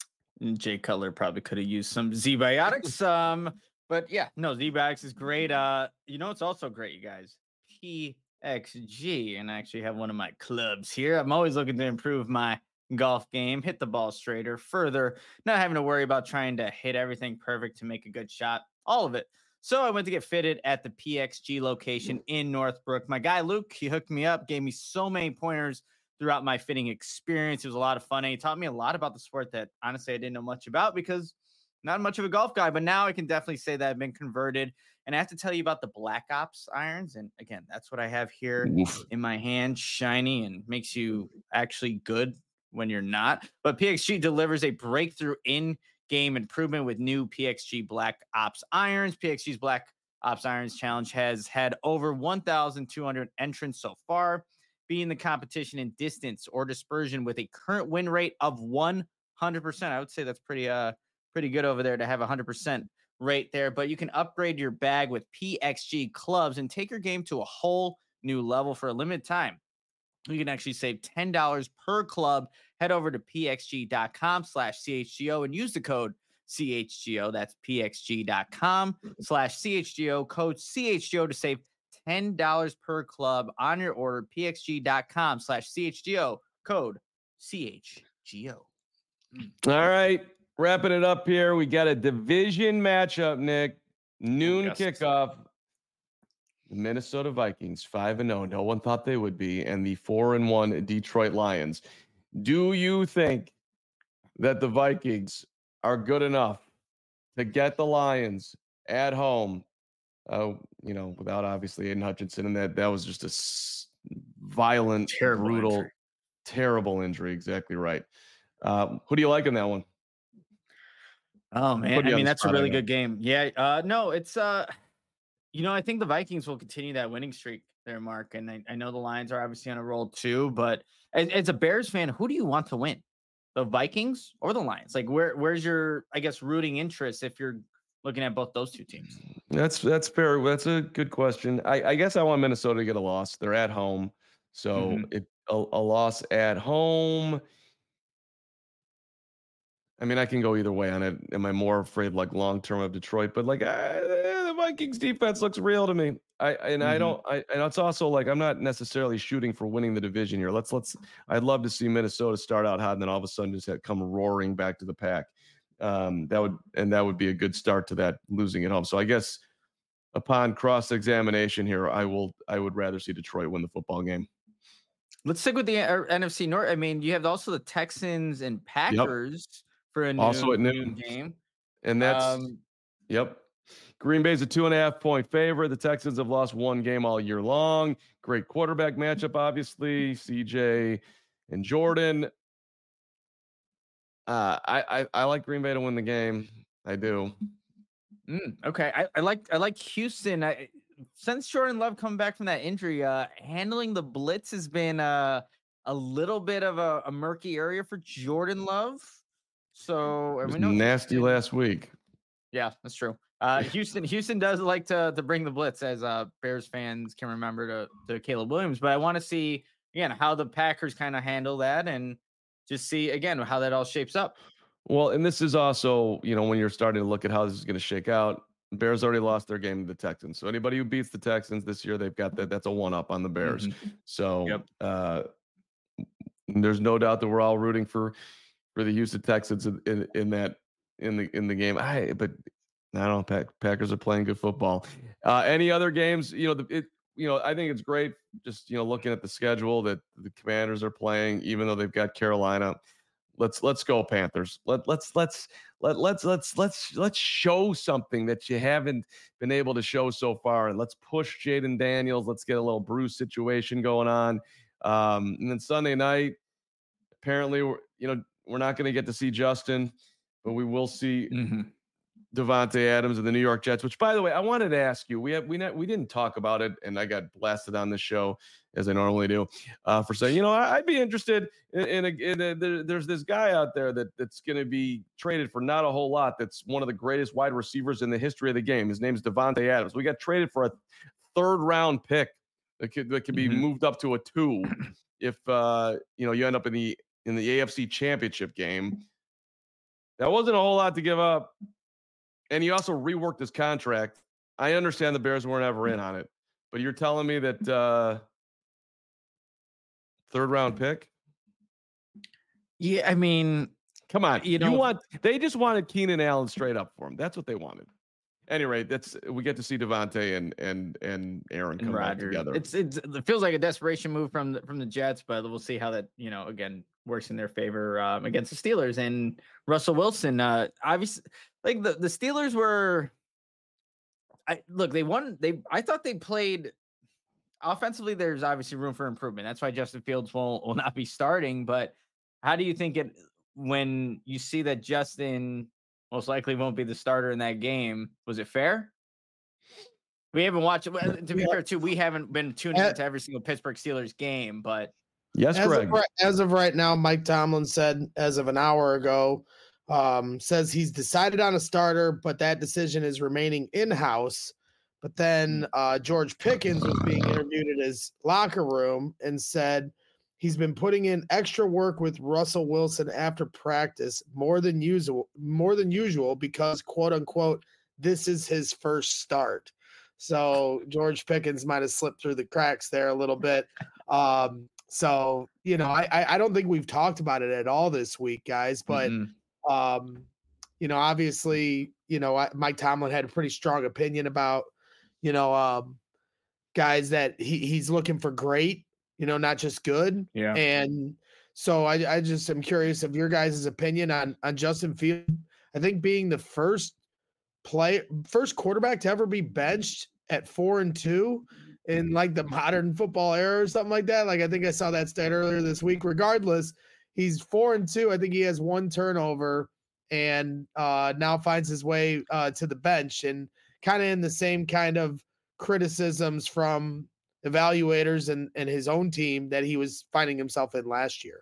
Jay Cutler probably could have used some ZBiotics. um, but yeah, no, ZBiotics is great. Uh, you know, it's also great, you guys. P X G, and I actually have one of my clubs here. I'm always looking to improve my golf game, hit the ball straighter, further, not having to worry about trying to hit everything perfect to make a good shot, all of it. So I went to get fitted at the P X G location in Northbrook. My guy Luke, he hooked me up, gave me so many pointers throughout my fitting experience. It was a lot of fun. And he taught me a lot about the sport that honestly I didn't know much about because not much of a golf guy, but now I can definitely say that I've been converted. And I have to tell you about the Black Ops irons. And again, that's what I have here Oof. in my hand, shiny and makes you actually good when you're not. But P X G delivers a breakthrough in-game improvement with new P X G Black Ops irons. P X G's Black Ops Irons Challenge has had over one thousand two hundred entrants so far, beating the competition in distance or dispersion with a current win rate of one hundred percent. I would say that's pretty uh pretty good over there to have a one hundred percent rate there. But you can upgrade your bag with P X G clubs and take your game to a whole new level for a limited time. You can actually save ten dollars per club. Head over to pxg.com slash CHGO and use the code C H G O. That's pxg.com slash CHGO, code C H G O to save ten dollars per club on your order. pxg.com slash CHGO, code C H G O. All right. Wrapping it up here. We got a division matchup, Nick. Noon yes. kickoff. The Minnesota Vikings, five and oh. No one thought they would be. And the four and one Detroit Lions. Do you think that the Vikings are good enough to get the Lions at home? Uh, you know, without obviously Aiden Hutchinson, and that that was just a s- violent, terrible brutal, injury. terrible injury. Exactly right. Um, who do you like in that one? Oh man, I mean that's a really good game. Yeah. Uh, no, it's uh, you know, I think the Vikings will continue that winning streak there, Mark. And I, I know the Lions are obviously on a roll too. But as, as a Bears fan, who do you want to win, the Vikings or the Lions? Like, where where's your, I guess, rooting interest if you're looking at both those two teams? That's that's fair. That's a good question. I, I guess I want Minnesota to get a loss. They're at home, so mm-hmm. it a, a loss at home. I mean, I can go either way on it. Am I more afraid, like long term, of Detroit? But like, uh, the Vikings defense looks real to me. I and mm-hmm. I don't. I and it's also like I'm not necessarily shooting for winning the division here. Let's let's. I'd love to see Minnesota start out hot and then all of a sudden just have come roaring back to the pack. Um, that would and that would be a good start to that losing at home. So I guess upon cross examination here, I will. I would rather see Detroit win the football game. Let's stick with the uh, N F C North. I mean, you have also the Texans and Packers. Yep. For a also noon, at noon. noon game. And that's, um, yep. Green Bay's a two and a half point favorite. The Texans have lost one game all year long. Great quarterback matchup, obviously. C J and Jordan. Uh, I, I, I like Green Bay to win the game. I do. Mm, okay, I, I like I like Houston. I, since Jordan Love coming back from that injury, uh, handling the blitz has been uh, a little bit of a, a murky area for Jordan Love. So, It and was we know nasty Houston. last week. Yeah, that's true. Uh, Houston, Houston does like to to bring the blitz, as uh, Bears fans can remember to to Caleb Williams. But I want to see again how the Packers kind of handle that, and just see again how that all shapes up. Well, and this is also, you know, when you're starting to look at how this is going to shake out, Bears already lost their game to the Texans. So anybody who beats the Texans this year, they've got that. That's a one up on the Bears. Mm-hmm. So Yep. uh, there's no doubt that we're all rooting for for the Houston Texans in, in, in that in the in the game. I but I don't know. Pack, Packers are playing good football. Uh, any other games? You know, the, it. You know, I think it's great. Just you know, looking at the schedule that the Commanders are playing, even though they've got Carolina. Let's let's go Panthers. Let let's let's let let's let's let's let's show something that you haven't been able to show so far, and let's push Jaden Daniels. Let's get a little Bruce situation going on. Um, and then Sunday night, apparently, we're you know we're not going to get to see Justin, but we will see Mm-hmm. Devontae Adams and the New York Jets. Which, by the way, I wanted to ask you. We have we not, we didn't talk about it, and I got blasted on this show as I normally do uh, for saying, you know, I, I'd be interested in, in, a, in a, there, there's this guy out there that that's going to be traded for not a whole lot. That's one of the greatest wide receivers in the history of the game. His name is Devontae Adams. We got traded for a third round pick that could that could be Mm-hmm. moved up to a two if uh, you know you end up in the in the A F C Championship game. That wasn't a whole lot to give up. And he also reworked his contract. I understand the Bears weren't ever in on it, but you're telling me that uh, third round pick? Yeah, I mean, come on. you You, know, want? They just wanted Keenan Allen straight up for him. That's what they wanted. Anyway, that's we get to see Devontae and and and Aaron come back together. It's it's it feels like a desperation move from the from the Jets, but we'll see how that you know again works in their favor um, against the Steelers and Russell Wilson. Uh, obviously, like the the Steelers were. I look, they won. They I thought they played offensively. There's obviously room for improvement. That's why Justin Fields will will not be starting. But how do you think it when you see that Justin most likely won't be the starter in that game? Was it fair? We haven't watched it. To be Yeah. fair, too, we haven't been tuning Uh, into every single Pittsburgh Steelers game, but yes, As Greg. of, right, as of right now, Mike Tomlin said as of an hour ago, um, says he's decided on a starter, but that decision is remaining in-house. But then uh, George Pickens was being interviewed in his locker room and said he's been putting in extra work with Russell Wilson after practice more than usual, more than usual because quote unquote this is his first start. So George Pickens might have slipped through the cracks there a little bit. Um, so you know, I I don't think we've talked about it at all this week, guys. But mm-mm. um, you know, obviously, you know, I, Mike Tomlin had a pretty strong opinion about, you know, um, guys that he he's looking for great, you know, not just good. Yeah. And so I I just am curious of your guys' opinion on on Justin Fields. I think being the first play first quarterback to ever be benched at four and two in like the modern football era or something like that. Like I think I saw that stat earlier this week. Regardless, he's four and two. I think he has one turnover and uh, now finds his way uh, to the bench and kind of in the same kind of criticisms from evaluators and, and his own team that he was finding himself in last year.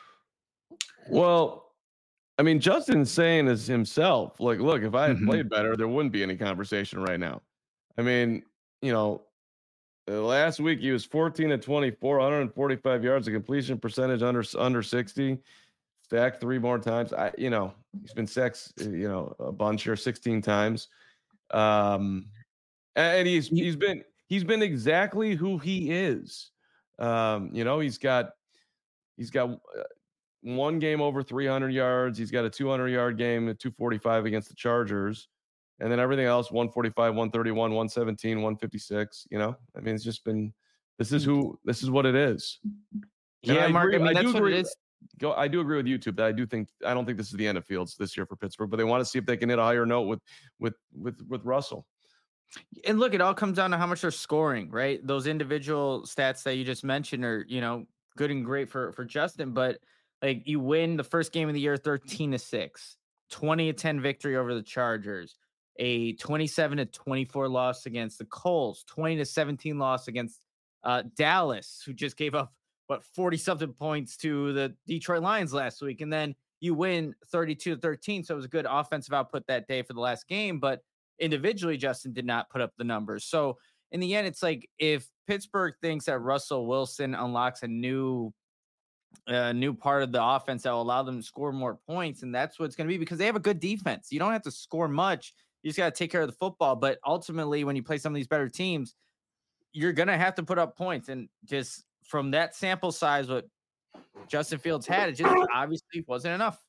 Well, I mean, Justin's saying as himself, like, look, if I had Mhm. played better, there wouldn't be any conversation right now. I mean, you know, uh, last week he was fourteen to twenty-four, one hundred forty-five yards, a completion percentage under under sixty, sacked three more times. I, you know, he's been sacked, uh, you know, a bunch here, sixteen times. Um, and he's he's been he's been exactly who he is. Um, you know, he's got he's got uh, one game over three hundred yards. He's got a two hundred yard game at two forty-five against the Chargers. And then everything else, one forty-five, one thirty-one, one seventeen, one fifty-six, you know? I mean, it's just been this is who this is what it is. And Yeah, I Mark. agree- I mean, I that's do what agree- it is. Go I do agree with YouTube that I do think I don't think this is the end of Fields this year for Pittsburgh, but they want to see if they can hit a higher note with with with with Russell. And look, it all comes down to how much they're scoring, right? Those individual stats that you just mentioned are, you know, good and great for for Justin, but like you win the first game of the year thirteen to six, twenty to ten victory over the Chargers. a twenty-seven to twenty-four loss against the Colts, twenty to seventeen loss against uh, Dallas, who just gave up what forty something points to the Detroit Lions last week. And then you win thirty-two to thirteen. So it was a good offensive output that day for the last game, but individually, Justin did not put up the numbers. So in the end, it's like if Pittsburgh thinks that Russell Wilson unlocks a new a new part of the offense that will allow them to score more points, and that's what it's going to be, because they have a good defense. You don't have to score much. You just got to take care of the football. But ultimately, when you play some of these better teams, you're going to have to put up points. And just from that sample size, what Justin Fields had, it just obviously wasn't enough.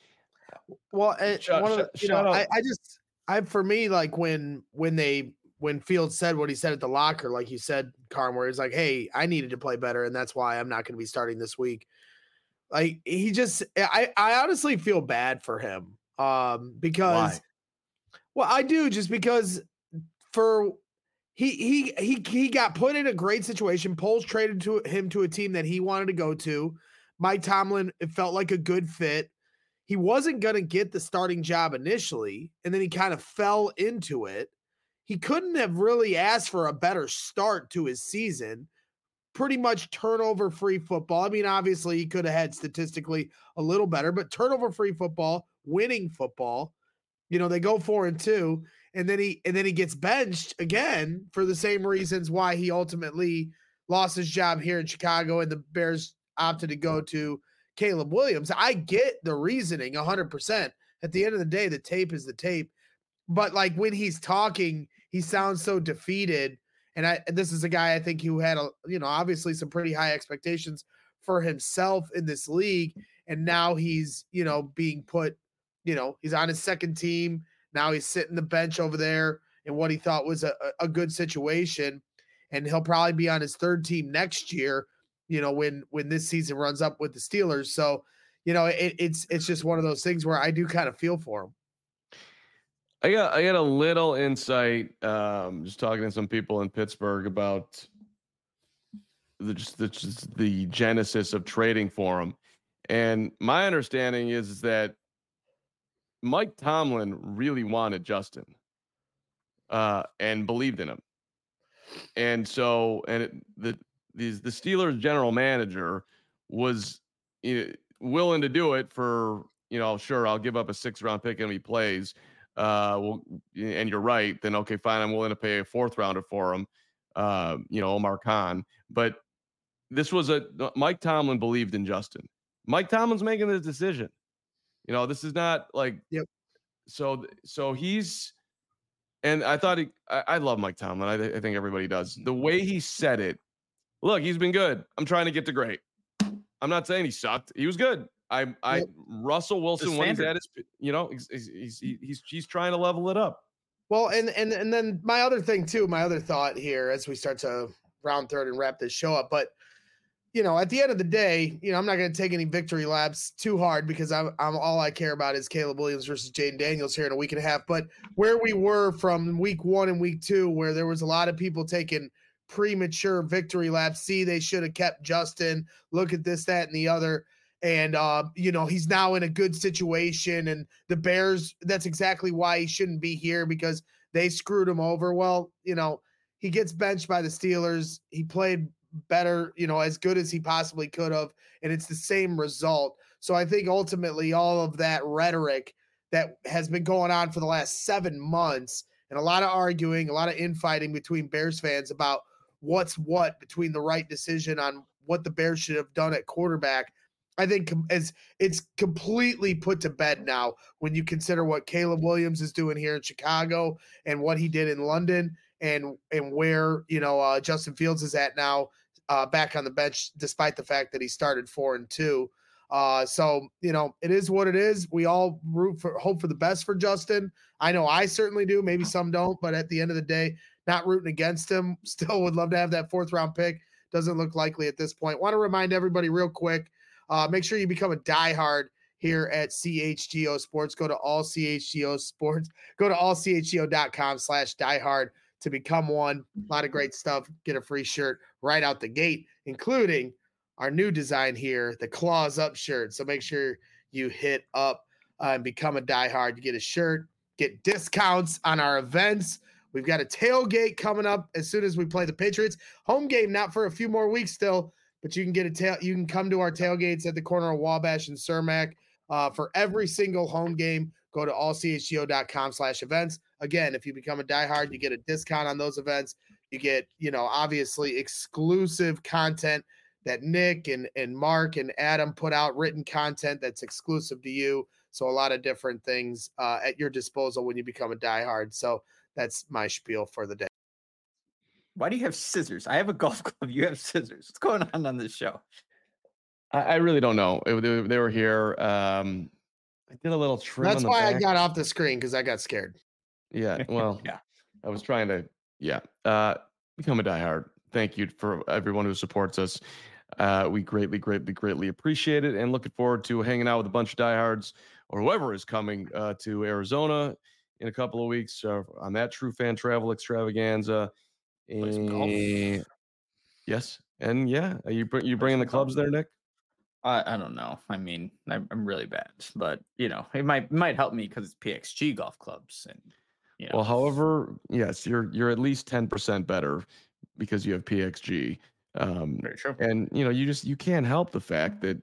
Well, it, Shut- one of the, shut- you know, shut up. I, I just, I for me, like when when they when Fields said what he said at the locker, like you said, Carm, where he's like, "Hey, I needed to play better, and that's why I'm not going to be starting this week." Like he just, I I honestly feel bad for him, um, because, Why? well, I do, just because for he he he he got put in a great situation. Poles traded to him to a team that he wanted to go to. Mike Tomlin, it felt like a good fit. He wasn't going to get the starting job initially, and then he kind of fell into it. He couldn't have really asked for a better start to his season. Pretty much turnover-free football. I mean, obviously, he could have had statistically a little better, but turnover-free football, winning football. You know, they go four and two, and then he and then he gets benched again for the same reasons why he ultimately lost his job here in Chicago, and the Bears opted to go to Caleb Williams. I get the reasoning one hundred percent. At the end of the day, the tape is the tape. But like when he's talking, he sounds so defeated. And I this is a guy I think who had a, you know, obviously some pretty high expectations for himself in this league. And now he's, you know, being put, you know, he's on his second team. Now he's sitting the bench over there in what he thought was a, a good situation. And he'll probably be on his third team next year, you know, when when this season runs up with the Steelers. So, you know, it, it's it's just one of those things where I do kind of feel for him. I got I got a little insight, um, just talking to some people in Pittsburgh about the just the, just the genesis of trading for him, and my understanding is that Mike Tomlin really wanted Justin, uh, and believed in him, and so and it, the these the Steelers general manager was, you know, willing to do it for, you know, sure, I'll give up a sixth round pick and he plays. Uh, well, and you're right, then okay, fine, I'm willing to pay a fourth rounder for him, uh, you know, Omar Khan. But this was a Mike Tomlin believed in Justin. Mike Tomlin's making this decision. You know, this is not like, Yep. So, so he's, and I thought he, I, I love Mike Tomlin. I, th- I think everybody does. The way he said it, look, he's been good. I'm trying to get to great. I'm not saying he sucked. He was good. I, I, Yep. Russell Wilson, when he's at his, you know, he's, he's, he's, he's, he's trying to level it up. Well, and and and then my other thing too, my other thought here as we start to round third and wrap this show up, but you know, at the end of the day, you know, I'm not going to take any victory laps too hard because I'm, I'm all I care about is Caleb Williams versus Jaden Daniels here in a week and a half. But where we were from week one and week two, where there was a lot of people taking premature victory laps. See, they should have kept Justin. Look at this, that, and the other. And, uh, you know, he's now in a good situation. And the Bears, that's exactly why he shouldn't be here, because they screwed him over. Well, you know, he gets benched by the Steelers. He played better, you know, as good as he possibly could have. And it's the same result. So I think ultimately all of that rhetoric that has been going on for the last seven months and a lot of arguing, a lot of infighting between Bears fans about what's what between the right decision on what the Bears should have done at quarterback, I think as it's completely put to bed now when you consider what Caleb Williams is doing here in Chicago and what he did in London and and where, you know, uh, Justin Fields is at now, uh, back on the bench, despite the fact that he started four and two. Uh, so, you know, it is what it is. We all root for, hope for the best for Justin. I know I certainly do. Maybe some don't, but at the end of the day, not rooting against him. Still would love to have that fourth round pick. Doesn't look likely at this point. Want to remind everybody real quick. Uh, make sure you become a diehard here at C H G O Sports. Go to all C H G O Sports. Go to all C H G O dot com slash diehard to become one. A lot of great stuff. Get a free shirt right out the gate, including our new design here, the Claws Up shirt. So make sure you hit up uh, and become a diehard. You get a shirt, get discounts on our events. We've got a tailgate coming up as soon as we play the Patriots. Home game, not for a few more weeks still, but you can get a tail. You can come to our tailgates at the corner of Wabash and Cermak uh, for every single home game. Go to all c h g o dot com slash events. Again, if you become a diehard, you get a discount on those events. You get, you know, obviously exclusive content that Nick and, and Mark and Adam put out, written content that's exclusive to you. So a lot of different things uh, at your disposal when you become a diehard. So that's my spiel for the day. Why do you have scissors? I have a golf club. You have scissors. What's going on on this show? I, I really don't know. It, they, they were here. Um, I did a little trim. That's on the why back. I got off the screen, because I got scared. Yeah. Well, Yeah. I was trying to, yeah, uh, become a diehard. Thank you for everyone who supports us. Uh, we greatly, greatly, greatly appreciate it, and looking forward to hanging out with a bunch of diehards or whoever is coming uh, to Arizona in a couple of weeks uh, on that True Fan Travel Extravaganza. Play some golf. And, yes, and yeah, are you br- you bringing the some clubs golf. there, Nick? I, I don't know. I mean, I'm, I'm really bad, but you know, it might might help me because it's P X G golf clubs, and you know. Well, however, yes, you're you're at least ten percent better because you have P X G. Um, Very true. and you know, you just you can't help the fact that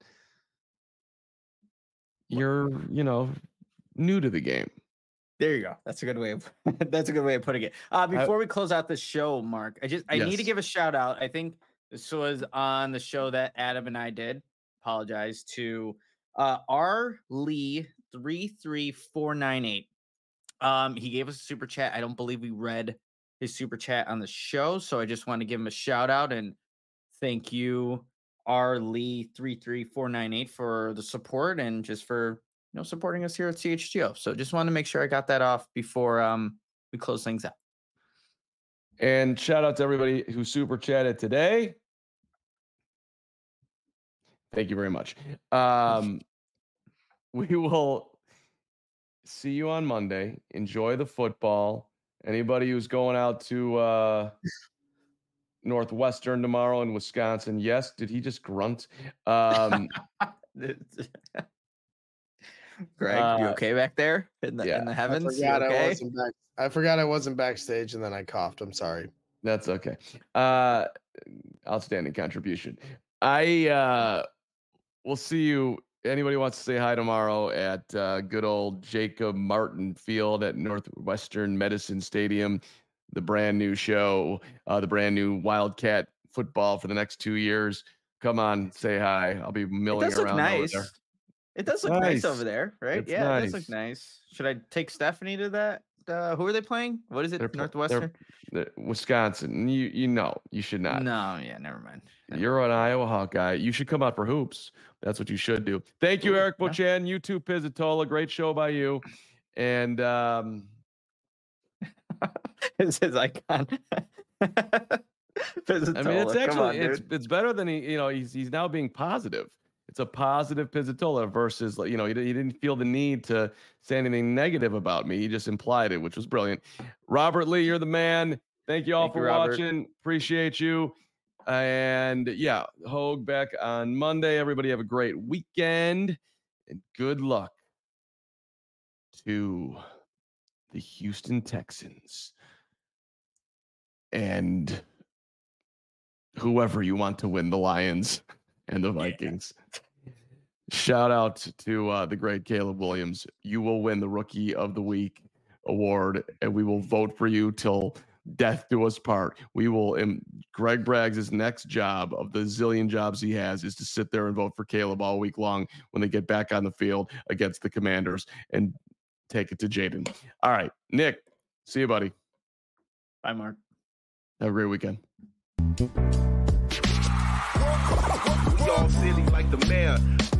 you're you know new to the game. There you go. That's a good way of that's a good way of putting it. Uh, before I, we close out the show, Mark, I just I yes. need to give a shout out. I think this was on the show that Adam and I did. Apologize to uh, R Lee three three four nine eight. Um, he gave us a super chat. I don't believe we read his super chat on the show, so I just want to give him a shout out and thank you, R Lee three three four nine eight, for the support and just for you know supporting us here at C H G O. So just wanted to make sure I got that off before um we close things out. And shout out to everybody who super chatted today. Thank you very much. Um, we will see you on Monday. Enjoy the football. Anybody who's going out to uh, Northwestern tomorrow in Wisconsin, yes. Did he just grunt? Um, Greg, uh, you okay back there in the, yeah. in the heavens? I forgot, okay? I, wasn't back, I forgot I wasn't backstage, and then I coughed. I'm sorry. That's okay. Uh, outstanding contribution. I uh, will see you. Anybody wants to say hi tomorrow at uh, good old Jacob Martin Field at Northwestern Medicine Stadium, the brand new show, uh, the brand new Wildcat football for the next two years. Come on, say hi. I'll be milling it does around look nice. over there. It does look nice. nice over there, right? It's yeah, nice. It does look nice. Should I take Stephanie to that? Uh, who are they playing? What is it? They're, Northwestern? They're, they're Wisconsin. You you know, you should not. No, yeah, never mind. Never You're mind. an Iowa Hawkeye. You should come out for hoops. That's what you should do. Thank you, Eric Bochan. You too, Pizzatola. Great show by you. And um it's his icon. I mean, it's actually on, it's it's better than he, you know, he's he's now being positive. It's a positive Pizzatola versus, you know, he, he didn't feel the need to say anything negative about me. He just implied it, which was brilliant. Robert Lee, you're the man. Thank you all Thank for you, watching. Appreciate you. And yeah, Hogue back on Monday. Everybody have a great weekend and good luck to the Houston Texans and whoever you want to win, the Lions and the Vikings. Yeah. Shout out to uh, the great Caleb Williams. You will win the Rookie of the Week award, and we will vote for you till death do us part. We will. Um, Greg Braggs' next job of the zillion jobs he has is to sit there and vote for Caleb all week long when they get back on the field against the Commanders and take it to Jaden. All right, Nick. See you, buddy. Bye, Mark. Have a great weekend. We all silly like the mayor.